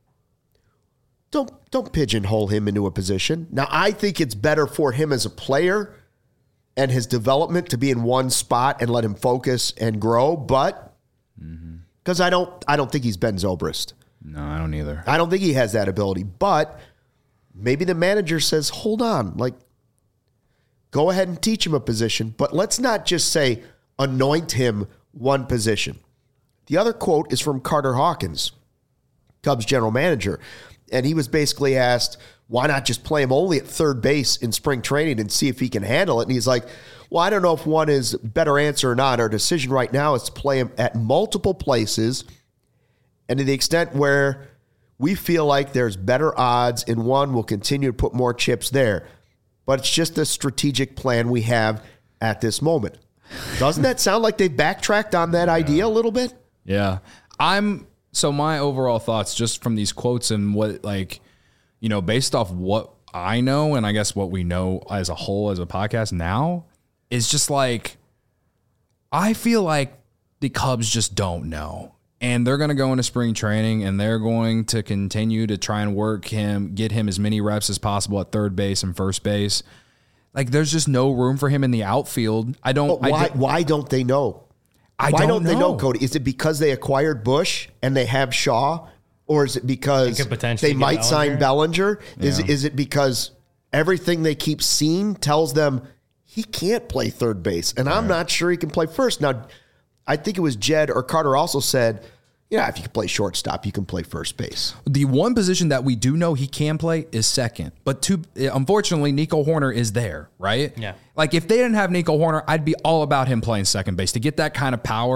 Don't pigeonhole him into a position. Now, I think it's better for him as a player and his development to be in one spot and let him focus and grow, but because I don't think he's Ben Zobrist. No, I don't either. I don't think he has that ability, but maybe the manager says, hold on, like, go ahead and teach him a position, but let's not just say anoint him one position. The other quote is from Carter Hawkins, Cubs general manager. And he was basically asked, why not just play him only at third base in spring training and see if he can handle it? And he's like, well, I don't know if one is a better answer or not. Our decision right now is to play him at multiple places. And to the extent where we feel like there's better odds in one, we'll continue to put more chips there. But it's just a strategic plan we have at this moment. Doesn't that sound like they've backtracked on that idea a little bit? Yeah. So my overall thoughts just from these quotes and what, based off what I know and I guess what we know as a whole as a podcast now is just like, I feel like the Cubs just don't know. And they're going to go into spring training and they're going to continue to try and get him as many reps as possible at third base and first base. Like, there's just no room for him in the outfield. Why don't they know? Why don't they know, Cody? Is it because they acquired Bush and they have Shaw? Or is it because they might sign Bellinger? Yeah. Is it because everything they keep seeing tells them he can't play third base? And I'm not sure he can play first. Now, I think it was Jed or Carter also said, if you can play shortstop, you can play first base. The one position that we do know he can play is second. But unfortunately, Nico Hoerner is there, right? Yeah. Like, if they didn't have Nico Hoerner, I'd be all about him playing second base to get that kind of power.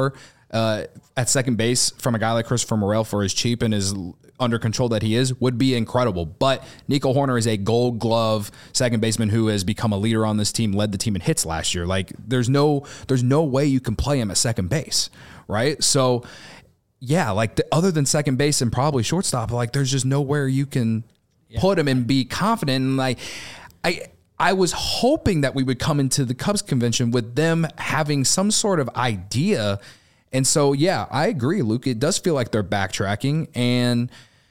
at second base from a guy like Christopher Morel for as cheap and as under control that he is would be incredible. But Nico Hoerner is a Gold Glove second baseman who has become a leader on this team, led the team in hits last year. Like there's no way you can play him at second base, right? So yeah, like other than second base and probably shortstop, like there's just nowhere you can put him and be confident. And like I was hoping that we would come into the Cubs convention with them having some sort of idea. And so, yeah, I agree, Luke. It does feel like they're backtracking, and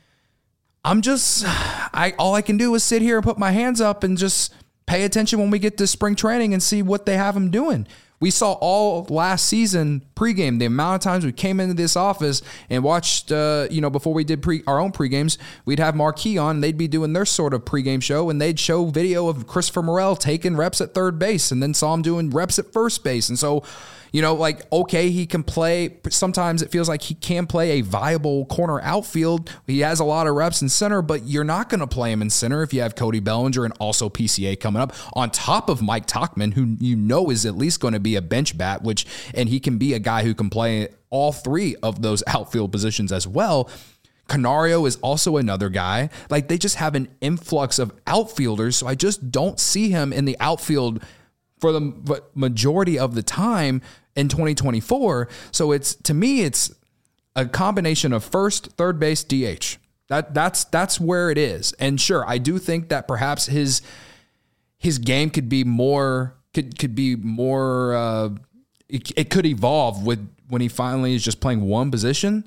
I'm just, all I can do is sit here and put my hands up and just pay attention when we get to spring training and see what they have them doing. We saw all last season pregame, the amount of times we came into this office and watched, before we did our own pregames, we'd have Marquee on, and they'd be doing their sort of pregame show, and they'd show video of Christopher Morel taking reps at third base and then saw him doing reps at first base. And so, okay, he can play. Sometimes it feels like he can play a viable corner outfield. He has a lot of reps in center, but you're not going to play him in center if you have Cody Bellinger and also PCA coming up on top of Mike Tauchman, who is at least going to be a bench bat, and he can be a guy who can play all three of those outfield positions as well. Canario is also another guy. Like they just have an influx of outfielders, so I just don't see him in the outfield for the majority of the time in 2024. So to me, it's a combination of first, third base, DH. That's where it is. And sure, I do think that perhaps his game could be more, could be more, it could evolve when he finally is just playing one position.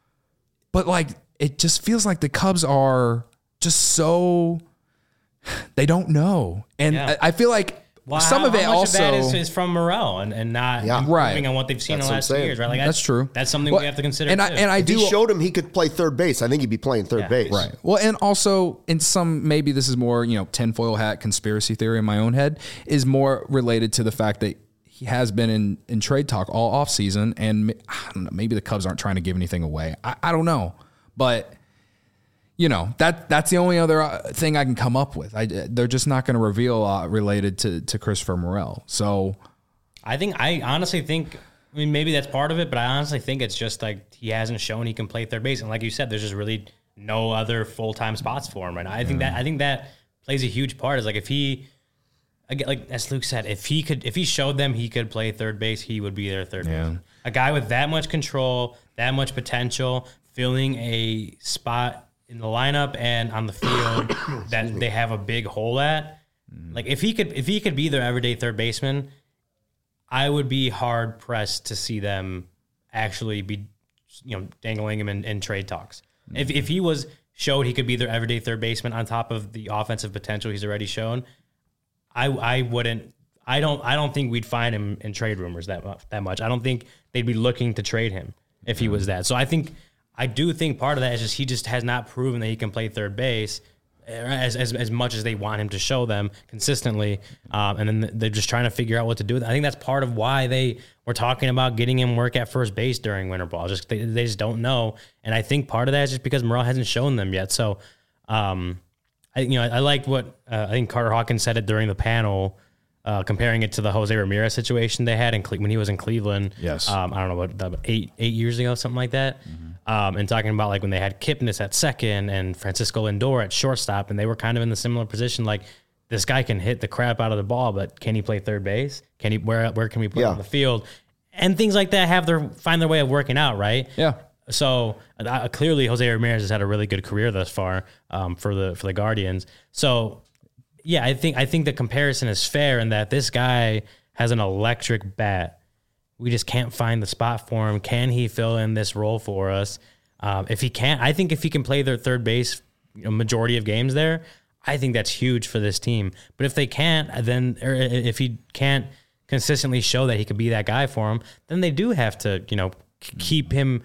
But like, it just feels like the Cubs are just so, they don't know. And I feel like, well, some of it how much also of that is from Morel and not improving on what they've seen in the last 2 years, right? Like that's true. That's something we have to consider. And if he showed him he could play third base, I think he'd be playing third base. Right. Well, and also in some, maybe this is more, tinfoil hat conspiracy theory in my own head, is more related to the fact that he has been in trade talk all off season, and I don't know, maybe the Cubs aren't trying to give anything away. I don't know, but. That's the only other thing I can come up with. They're just not going to reveal a lot related to Christopher Morel. So I honestly think, maybe that's part of it, but I honestly think it's just like he hasn't shown he can play third base. And like you said, there's just really no other full-time spots for him right now. I think that plays a huge part. Is like if he, again, like as Luke said, if he showed them he could play third base, he would be their third base. A guy with that much control, that much potential, filling a spot in the lineup and on the field that they have a big hole at. Like if he could be their everyday third baseman, I would be hard pressed to see them actually be, dangling him in trade talks. If he showed he could be their everyday third baseman on top of the offensive potential he's already shown, I don't think we'd find him in trade rumors that much. I don't think they'd be looking to trade him if he was that. So I do think part of that is just he just has not proven that he can play third base as much as they want him to show them consistently. And then they're just trying to figure out what to do with it. I think that's part of why they were talking about getting him work at first base during winter ball. They just don't know. And I think part of that is just because Morel hasn't shown them yet. So I liked what I think Carter Hawkins said it during the panel, comparing it to the Jose Ramirez situation they had when he was in Cleveland. Yes. I don't know, about 8 years ago, something like that. Mm-hmm. And talking about like when they had Kipnis at second and Francisco Lindor at shortstop, and they were kind of in the similar position. Like this guy can hit the crap out of the ball, but can he play third base? Can he? Where can we put him on the field? And things like that find their way of working out, right? Yeah. So clearly, Jose Ramirez has had a really good career thus far for the Guardians. So yeah, I think the comparison is fair in that this guy has an electric bat. We just can't find the spot for him. Can he fill in this role for us? If he can't, I think if he can play their third base majority of games there, I think that's huge for this team. But if they can't, or if he can't consistently show that he could be that guy for him, then they do have to, keep him,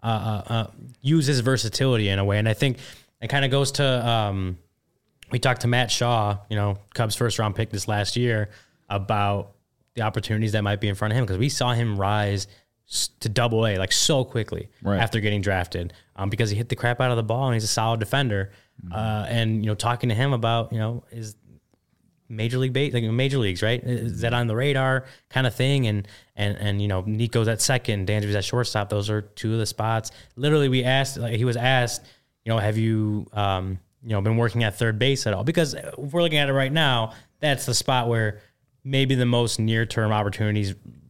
use his versatility in a way. And I think it kind of goes to, we talked to Matt Shaw, Cubs first round pick this last year, about the opportunities that might be in front of him, because we saw him rise to Double-A like so quickly after getting drafted, because he hit the crap out of the ball and he's a solid defender. And talking to him about major leagues, right? Is that on the radar kind of thing? And Nico's at second, Dansby's at shortstop. Those are two of the spots. Literally, he was asked, have you, been working at third base at all? Because if we're looking at it right now, that's the spot where maybe the most near-term opportunities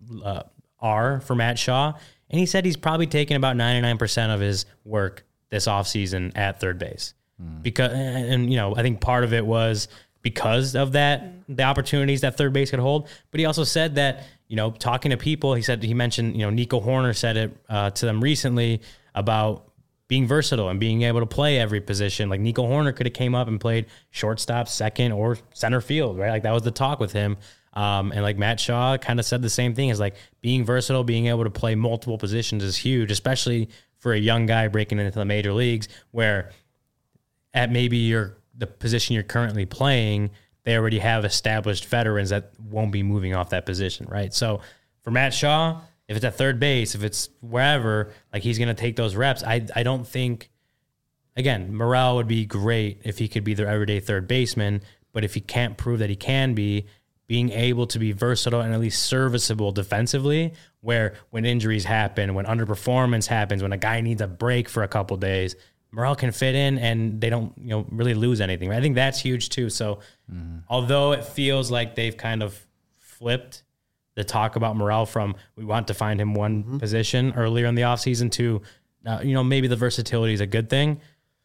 are for Matt Shaw. And he said he's probably taken about 99% of his work this offseason at third base. Because, I think part of it was because of that, the opportunities that third base could hold. But he also said that, talking to people, he mentioned, Nico Hoerner said it to them recently about being versatile and being able to play every position. Like Nico Hoerner could have came up and played shortstop, second, or center field, right? Like that was the talk with him. And like Matt Shaw kind of said the same thing, is like being versatile, being able to play multiple positions is huge, especially for a young guy breaking into the major leagues, where at maybe the position you're currently playing, they already have established veterans that won't be moving off that position, right? So for Matt Shaw, if it's at third base, if it's wherever, like he's going to take those reps. I don't think, again, Morel would be great if he could be their everyday third baseman, but if he can't prove that he can be, being able to be versatile and at least serviceable defensively, where when injuries happen, when underperformance happens, when a guy needs a break for a couple days, Morel can fit in and they don't, really lose anything. I think that's huge too. So although it feels like they've kind of flipped the talk about Morel from we want to find him one position earlier in the offseason to, maybe the versatility is a good thing.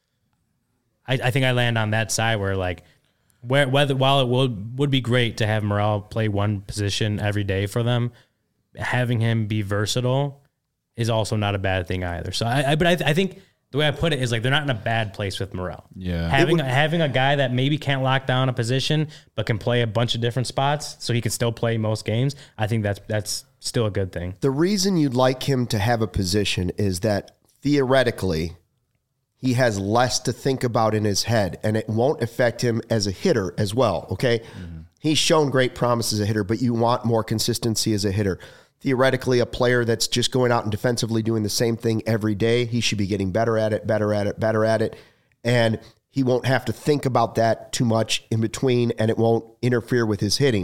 I think I land on that side where like, while it would be great to have Morel play one position every day for them, having him be versatile is also not a bad thing either. So I think the way I put it is like they're not in a bad place with Morel. Yeah, having a guy that maybe can't lock down a position but can play a bunch of different spots so he can still play most games. I think that's still a good thing. The reason you'd like him to have a position is that theoretically he has less to think about in his head, and it won't affect him as a hitter as well, okay? Mm-hmm. He's shown great promise as a hitter, but you want more consistency as a hitter. Theoretically, a player that's just going out and defensively doing the same thing every day, he should be getting better at it, and he won't have to think about that too much in between, and it won't interfere with his hitting.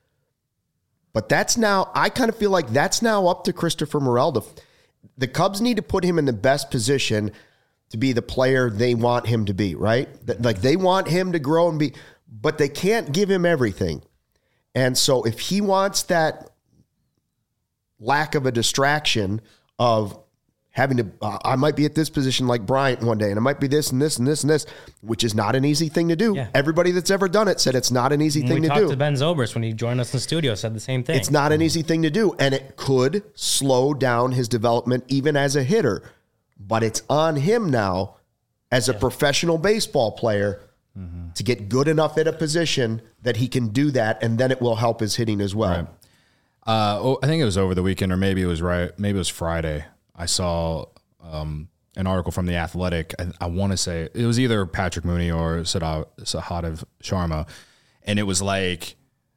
But I kind of feel like that's now up to Christopher Morel. The Cubs need to put him in the best position to be the player they want him to be, right? Like they want him to grow and be, but they can't give him everything. And so if he wants that lack of a distraction of having to, I might be at this position like Bryant one day, and it might be this and this and this and this, which is not an easy thing to do. Yeah. Everybody that's ever done it said it's not an easy thing to do. We talked to Ben Zobrist when he joined us in the studio, said the same thing. It's not an easy thing to do, and it could slow down his development even as a hitter. But it's on him now as a professional baseball player to get good enough at a position that he can do that, and then it will help his hitting as well. Right. I think it was over the weekend, or maybe it was Friday. I saw an article from The Athletic. I want to say it was either Patrick Mooney or Sahadev Sharma, and it was like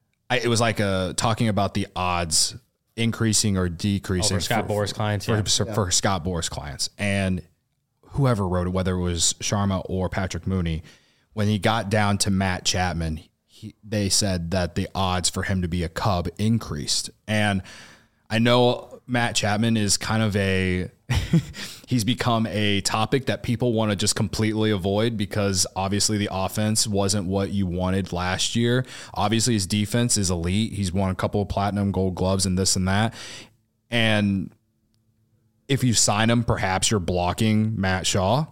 talking about the odds increasing or decreasing for Scott Boras clients, for Scott Boras clients. And whoever wrote it, whether it was Sharma or Patrick Mooney, when he got down to Matt Chapman, they said that the odds for him to be a Cub increased. And I know Matt Chapman is kind of he's become a topic that people want to just completely avoid because obviously the offense wasn't what you wanted last year. Obviously his defense is elite. He's won a couple of platinum gold gloves and this and that. And if you sign him, perhaps you're blocking Matt Shaw.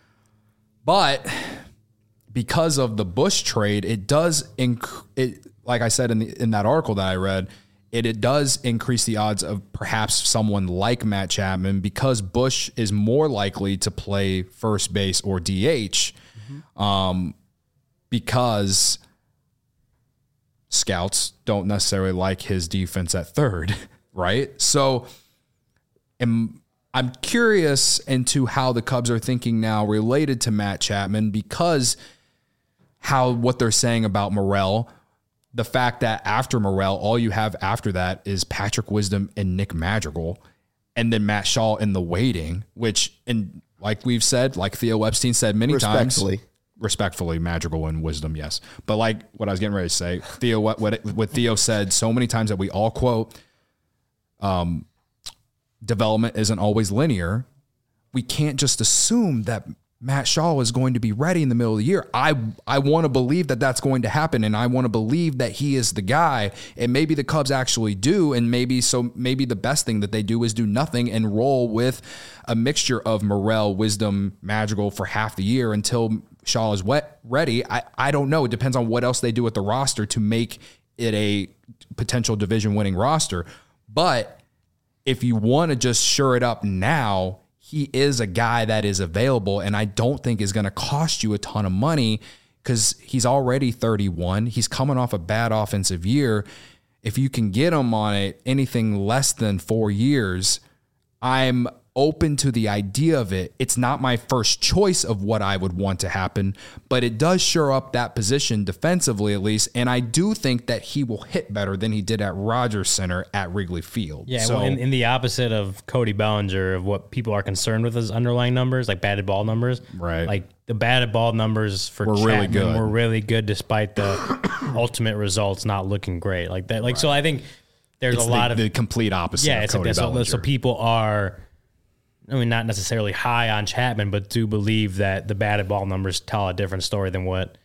But because of the Busch trade, it does, like I said in that article that I read, it does increase the odds of perhaps someone like Matt Chapman because Busch is more likely to play first base or DH because scouts don't necessarily like his defense at third, right? So I'm curious into how the Cubs are thinking now related to Matt Chapman because what they're saying about Morel. The fact that after Morel, all you have after that is Patrick Wisdom and Nick Madrigal, and then Matt Shaw in the waiting, which, and like we've said, like Theo Epstein said many times, respectfully, Madrigal and Wisdom, yes. But like what I was getting ready to say, Theo, what Theo said so many times that we all quote, development isn't always linear. We can't just assume that Matt Shaw is going to be ready in the middle of the year. I want to believe that that's going to happen, and I want to believe that he is the guy, and maybe the Cubs actually do, and maybe the best thing that they do is do nothing and roll with a mixture of Morel, Wisdom, Madrigal for half the year until Shaw is ready. I don't know. It depends on what else they do with the roster to make it a potential division-winning roster. But if you want to just shore it up now, he is a guy that is available, and I don't think is going to cost you a ton of money because he's already 31. He's coming off a bad offensive year. If you can get him on anything less than 4 years, I'm open to the idea of it. It's not my first choice of what I would want to happen, but it does shore up that position defensively at least, and I do think that he will hit better than he did at Rogers Center at Wrigley Field. Yeah, so, well, in the opposite of Cody Bellinger, of what people are concerned with his underlying numbers, like batted ball numbers. Right. Like the batted ball numbers for Chapman were really good despite the ultimate results not looking great. Like that. Like right. So I think there's a lot of the complete opposite. Yeah, of it's Cody Bellinger. So people are, I mean, not necessarily high on Chapman, but do believe that the batted ball numbers tell a different story than what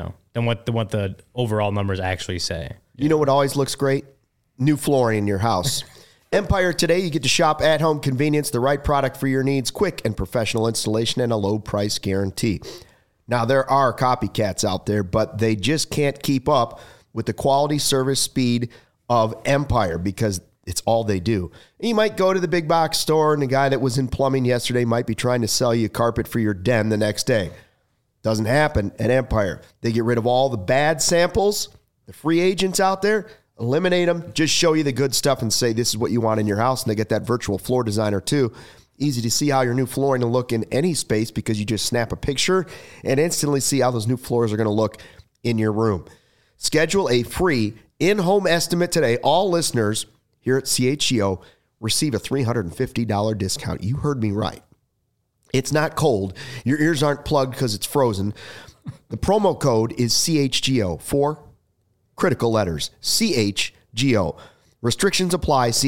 the overall numbers actually say. You know what always looks great? New flooring in your house. Empire Today, you get to shop at home convenience, the right product for your needs, quick and professional installation, and a low price guarantee. Now, there are copycats out there, but they just can't keep up with the quality, service, speed of Empire because it's all they do. You might go to the big box store and the guy that was in plumbing yesterday might be trying to sell you a carpet for your den the next day. Doesn't happen at Empire. They get rid of all the bad samples, the free agents out there, eliminate them, just show you the good stuff and say this is what you want in your house. And they get that virtual floor designer too. Easy to see how your new flooring will look in any space because you just snap a picture and instantly see how those new floors are going to look in your room. Schedule a free in-home estimate today. All listeners here at CHGO receive a $350 discount. You heard me right. It's not cold. Your ears aren't plugged because it's frozen. The promo code is CHGO. 4 critical letters. CHGO. Restrictions apply. See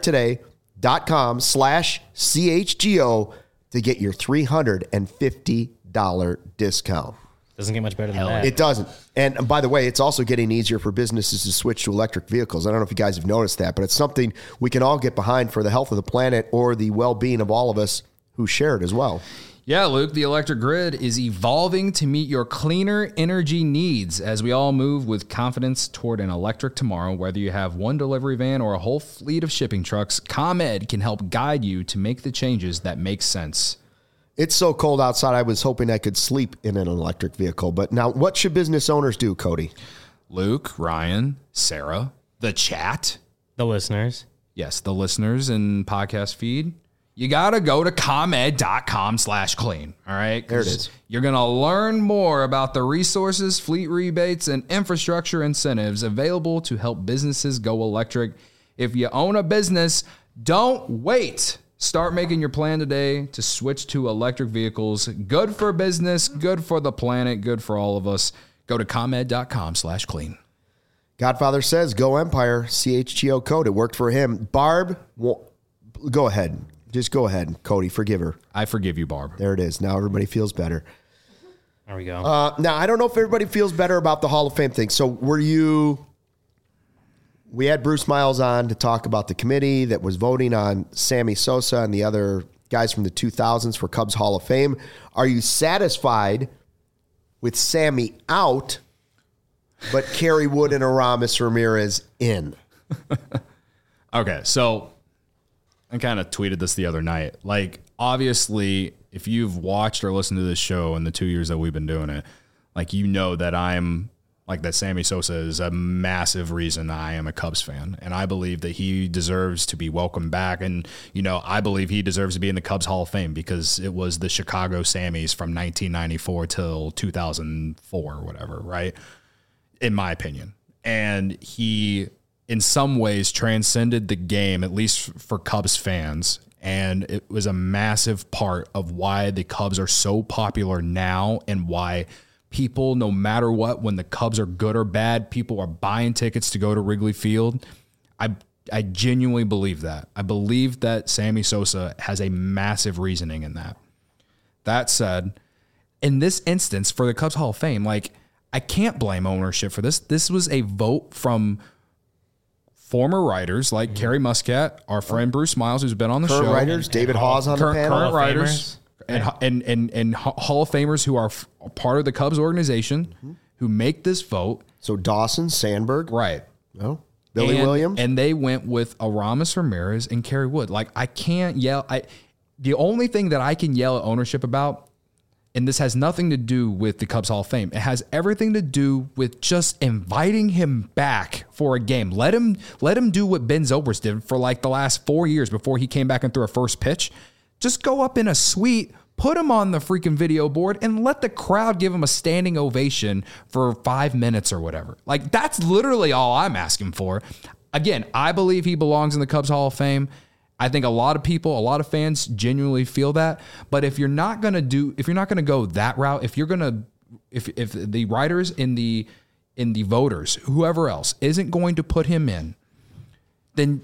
EmpireToday.com/CHGO to get your $350 discount. Doesn't get much better than that. It doesn't. And by the way, it's also getting easier for businesses to switch to electric vehicles. I don't know if you guys have noticed that, but it's something we can all get behind for the health of the planet or the well-being of all of us who share it as well. Yeah, Luke, the electric grid is evolving to meet your cleaner energy needs as we all move with confidence toward an electric tomorrow. Whether you have one delivery van or a whole fleet of shipping trucks, ComEd can help guide you to make the changes that make sense. It's so cold outside, I was hoping I could sleep in an electric vehicle. But now, what should business owners do, Cody? Luke, Ryan, Sarah, the chat. The listeners. Yes, the listeners and podcast feed. You got to go to ComEd.com/clean. All right? There it is. You're going to learn more about the resources, fleet rebates, and infrastructure incentives available to help businesses go electric. If you own a business, don't wait. Start making your plan today to switch to electric vehicles. Good for business, good for the planet, good for all of us. Go to ComEd.com/clean. Godfather says, go Empire, CHGO code. It worked for him. Barb, go ahead. Just go ahead, Cody. Forgive her. I forgive you, Barb. There it is. Now everybody feels better. There we go. Now, I don't know if everybody feels better about the Hall of Fame thing. So we had Bruce Miles on to talk about the committee that was voting on Sammy Sosa and the other guys from the 2000s for Cubs Hall of Fame. Are you satisfied with Sammy out, but Kerry Wood and Aramis Ramirez in? Okay, so I kind of tweeted this the other night. Like, obviously, if you've watched or listened to this show in the 2 years that we've been doing it, like, you know that that Sammy Sosa is a massive reason I am a Cubs fan. And I believe that he deserves to be welcomed back. And, I believe he deserves to be in the Cubs Hall of Fame because it was the Chicago Sammys from 1994 till 2004 or whatever, right? In my opinion. And he, in some ways, transcended the game, at least for Cubs fans. And it was a massive part of why the Cubs are so popular now and why people, no matter what, when the Cubs are good or bad, people are buying tickets to go to Wrigley Field. I genuinely believe that. I believe that Sammy Sosa has a massive reasoning in that. That said, in this instance, for the Cubs Hall of Fame, like, I can't blame ownership for this. This was a vote from former writers like Kerry Muscat, our friend Bruce Miles, who's been on the Current show. writers, David Hawes on the panel. Current writers and Hall of Famers who are part of the Cubs organization who make this vote. So Dawson, Sandberg. Right. Oh, Billy Williams. And they went with Aramis Ramirez and Kerry Wood. Like, I can't yell. The only thing that I can yell at ownership about, and this has nothing to do with the Cubs Hall of Fame, it has everything to do with just inviting him back for a game. Let him do what Ben Zobrist did for like the last 4 years before he came back and threw a first pitch. Just go up in a suite, put him on the freaking video board, and let the crowd give him a standing ovation for 5 minutes or whatever. Like, that's literally all I'm asking for. Again, I believe he belongs in the Cubs Hall of Fame. I think a lot of fans genuinely feel that. But if you're not going to go that route, if the writers in the voters, whoever else isn't going to put him in, then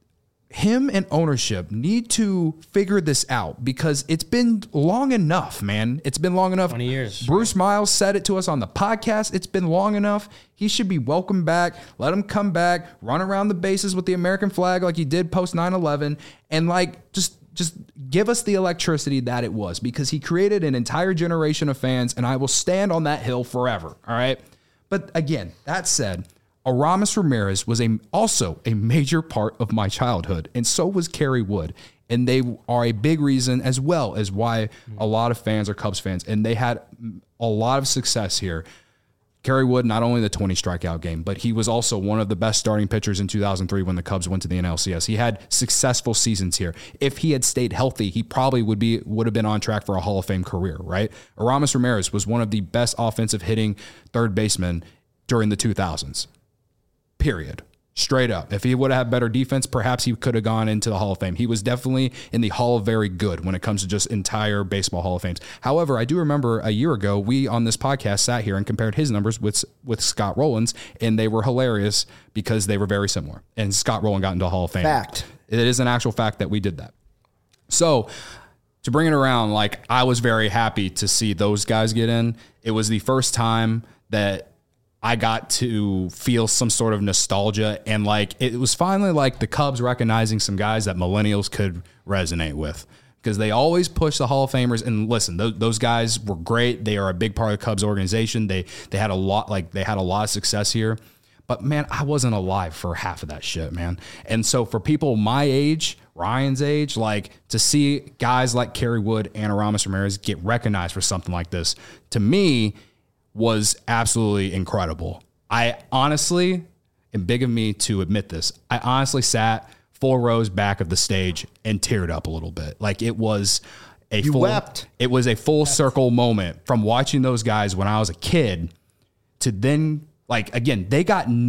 him and ownership need to figure this out, because it's been long enough, man. It's been long enough. 20 years. Bruce Miles said it to us on the podcast. It's been long enough. He should be welcomed back. Let him come back, run around the bases with the American flag like he did post 9/11, and like just give us the electricity that it was, because he created an entire generation of fans, and I will stand on that hill forever. All right. But again, that said, Aramis Ramirez was also a major part of my childhood, and so was Kerry Wood. And they are a big reason as well as why a lot of fans are Cubs fans, and they had a lot of success here. Kerry Wood, not only the 20 strikeout game, but he was also one of the best starting pitchers in 2003 when the Cubs went to the NLCS. He had successful seasons here. If he had stayed healthy, he probably would have been on track for a Hall of Fame career, right? Aramis Ramirez was one of the best offensive hitting third basemen during the 2000s. Period. Straight up. If he would have had better defense, perhaps he could have gone into the Hall of Fame. He was definitely in the Hall of Very Good when it comes to just entire baseball Hall of Fames. However, I do remember a year ago, we on this podcast sat here and compared his numbers with Scott Rowland's, and they were hilarious because they were very similar. And Scott Rowland got into the Hall of Fame. Fact. It is an actual fact that we did that. So to bring it around, like, I was very happy to see those guys get in. It was the first time that I got to feel some sort of nostalgia, and like it was finally like the Cubs recognizing some guys that millennials could resonate with, because they always push the Hall of Famers. And listen, those guys were great. They are a big part of the Cubs organization. They had a lot of success here. But man, I wasn't alive for half of that shit, man. And so for people my age, Ryan's age, like to see guys like Kerry Wood and Aramis Ramirez get recognized for something like this, to me, was absolutely incredible. I honestly, and big of me to admit this, I honestly sat 4 rows back of the stage and teared up a little bit. Like it was wept. It was a full circle moment from watching those guys when I was a kid to then, like, again, they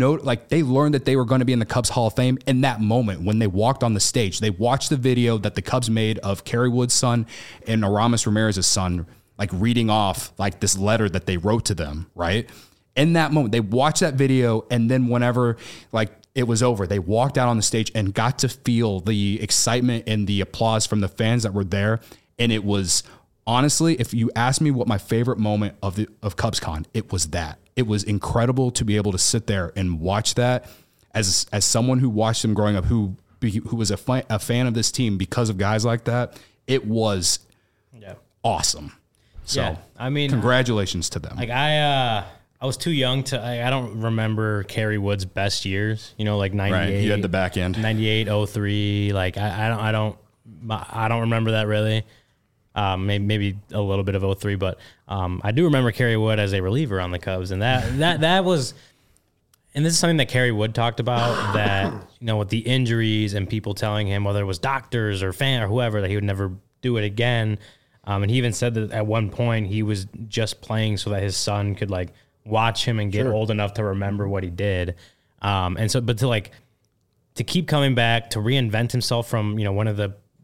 learned that they were going to be in the Cubs Hall of Fame in that moment when they walked on the stage. They watched the video that the Cubs made of Kerry Wood's son and Aramis Ramirez's son, like reading off like this letter that they wrote to them, right? In that moment, they watched that video, and then whenever like it was over, they walked out on the stage and got to feel the excitement and the applause from the fans that were there. And it was, honestly, if you ask me what my favorite moment of CubsCon, it was that. It was incredible to be able to sit there and watch that as someone who watched them growing up, who was a fan of this team because of guys like that. It was awesome. So, yeah, I mean, congratulations to them. Like I was too young to. I don't remember Kerry Wood's best years. You know, like 98. Right, you had the back end. 98, 03. Like I don't remember that really. Maybe a little bit of 03, but I do remember Kerry Wood as a reliever on the Cubs, and that was. And this is something that Kerry Wood talked about, that, you know, with the injuries and people telling him, whether it was doctors or fan or whoever, that he would never do it again. And he even said that at one point he was just playing so that his son could like watch him and get old enough to remember what he did. And so, but to keep coming back, to reinvent himself from, you know, one of the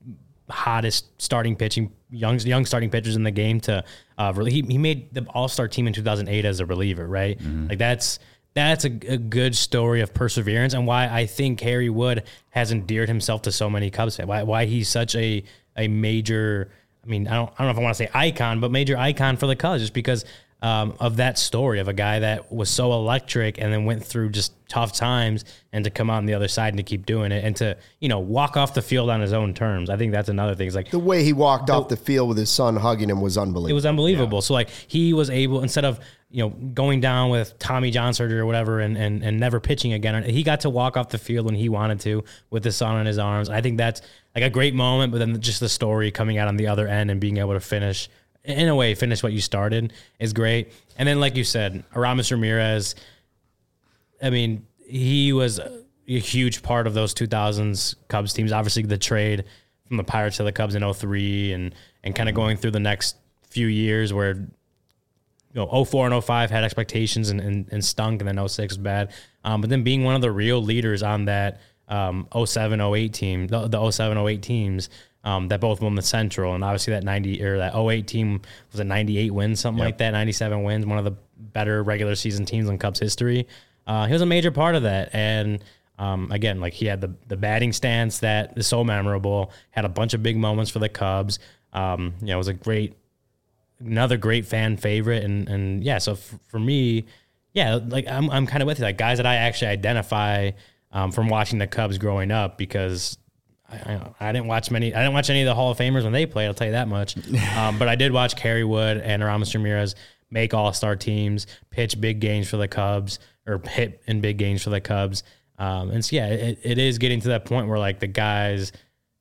hottest starting pitching, young starting pitchers in the game to he made the All-Star team in 2008 as a reliever, right? Like that's a good story of perseverance, and why I think Harry Wood has endeared himself to so many Cubs fans. Why he's such a major, I mean, I don't know if I want to say icon, but major icon for the Cubs, just because of that story of a guy that was so electric and then went through just tough times, and to come out on the other side and to keep doing it, and to, you know, walk off the field on his own terms. I think that's another thing. It's like the way he walked off the field with his son hugging him was unbelievable. It was unbelievable. Yeah. So like he was able, instead of, you know, going down with Tommy John surgery or whatever and never pitching again, he got to walk off the field when he wanted to with his son in his arms. I think that's like a great moment, but then just the story coming out on the other end and being able to finish what you started is great. And then, like you said, Aramis Ramirez, I mean, he was a huge part of those 2000s Cubs teams. Obviously, the trade from the Pirates to the Cubs in 2003 and kind of going through the next few years where, you know, 2004 and 2005 had expectations and stunk, and then 2006 was bad. But then being one of the real leaders on that 2007-08 team, the 2007-08 teams, that both won the Central, and obviously that 08 team was a 98 wins, something like that, 97 wins, one of the better regular season teams in Cubs history. He was a major part of that, and again, like he had the batting stance that is so memorable, had a bunch of big moments for the Cubs. You know, it was another great fan favorite, and yeah, so for me, yeah, like I'm kind of with you, like guys that I actually identify from watching the Cubs growing up, because I didn't watch any of the Hall of Famers when they played, I'll tell you that much. But I did watch Kerry Wood and Aramis Ramirez make all-star teams, pitch big games for the Cubs, or hit in big games for the Cubs. And so, yeah, it is getting to that point where, like, the guys,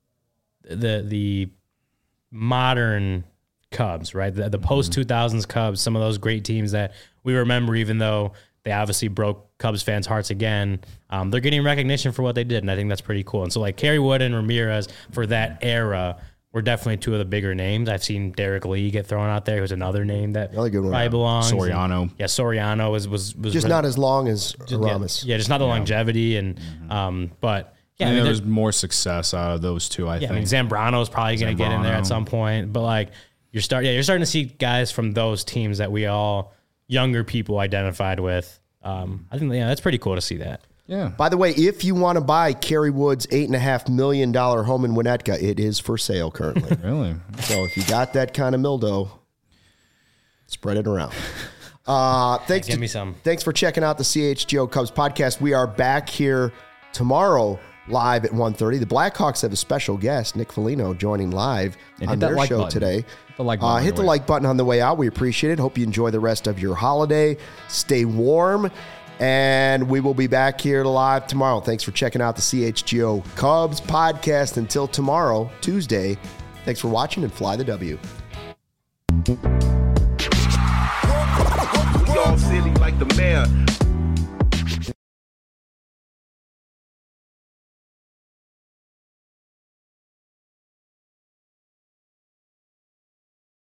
the modern Cubs, right? The post-2000s Cubs, some of those great teams that we remember, even though they obviously broke Cubs fans' hearts again, they're getting recognition for what they did, and I think that's pretty cool. And so, like, Kerry Wood and Ramirez for that era were definitely two of the bigger names. I've seen Derek Lee get thrown out there, who's another name that really good one. Probably belongs. Soriano. And, yeah, Soriano was just really, not as long as Aramis. Yeah, just not the longevity, and but yeah, I mean, there's more success out of those two. I think. I mean, Zambrano's probably going to get in there at some point, but like you're starting to see guys from those teams that we all younger people identified with. I think that's pretty cool to see that. Yeah. By the way, if you want to buy Kerry Wood's $8.5 million home in Winnetka, it is for sale currently. Really? So if you got that kind of mildew, spread it around. Give me some. Thanks for checking out the CHGO Cubs podcast. We are back here tomorrow live at 1:30. The Blackhawks have a special guest, Nick Foligno, joining live on their show today. Hit the like button on the way out. We appreciate it. Hope you enjoy the rest of your holiday. Stay warm. And we will be back here live tomorrow. Thanks for checking out the CHGO Cubs podcast. Until tomorrow, Tuesday, thanks for watching and fly the W. Y'all silly like the mayor.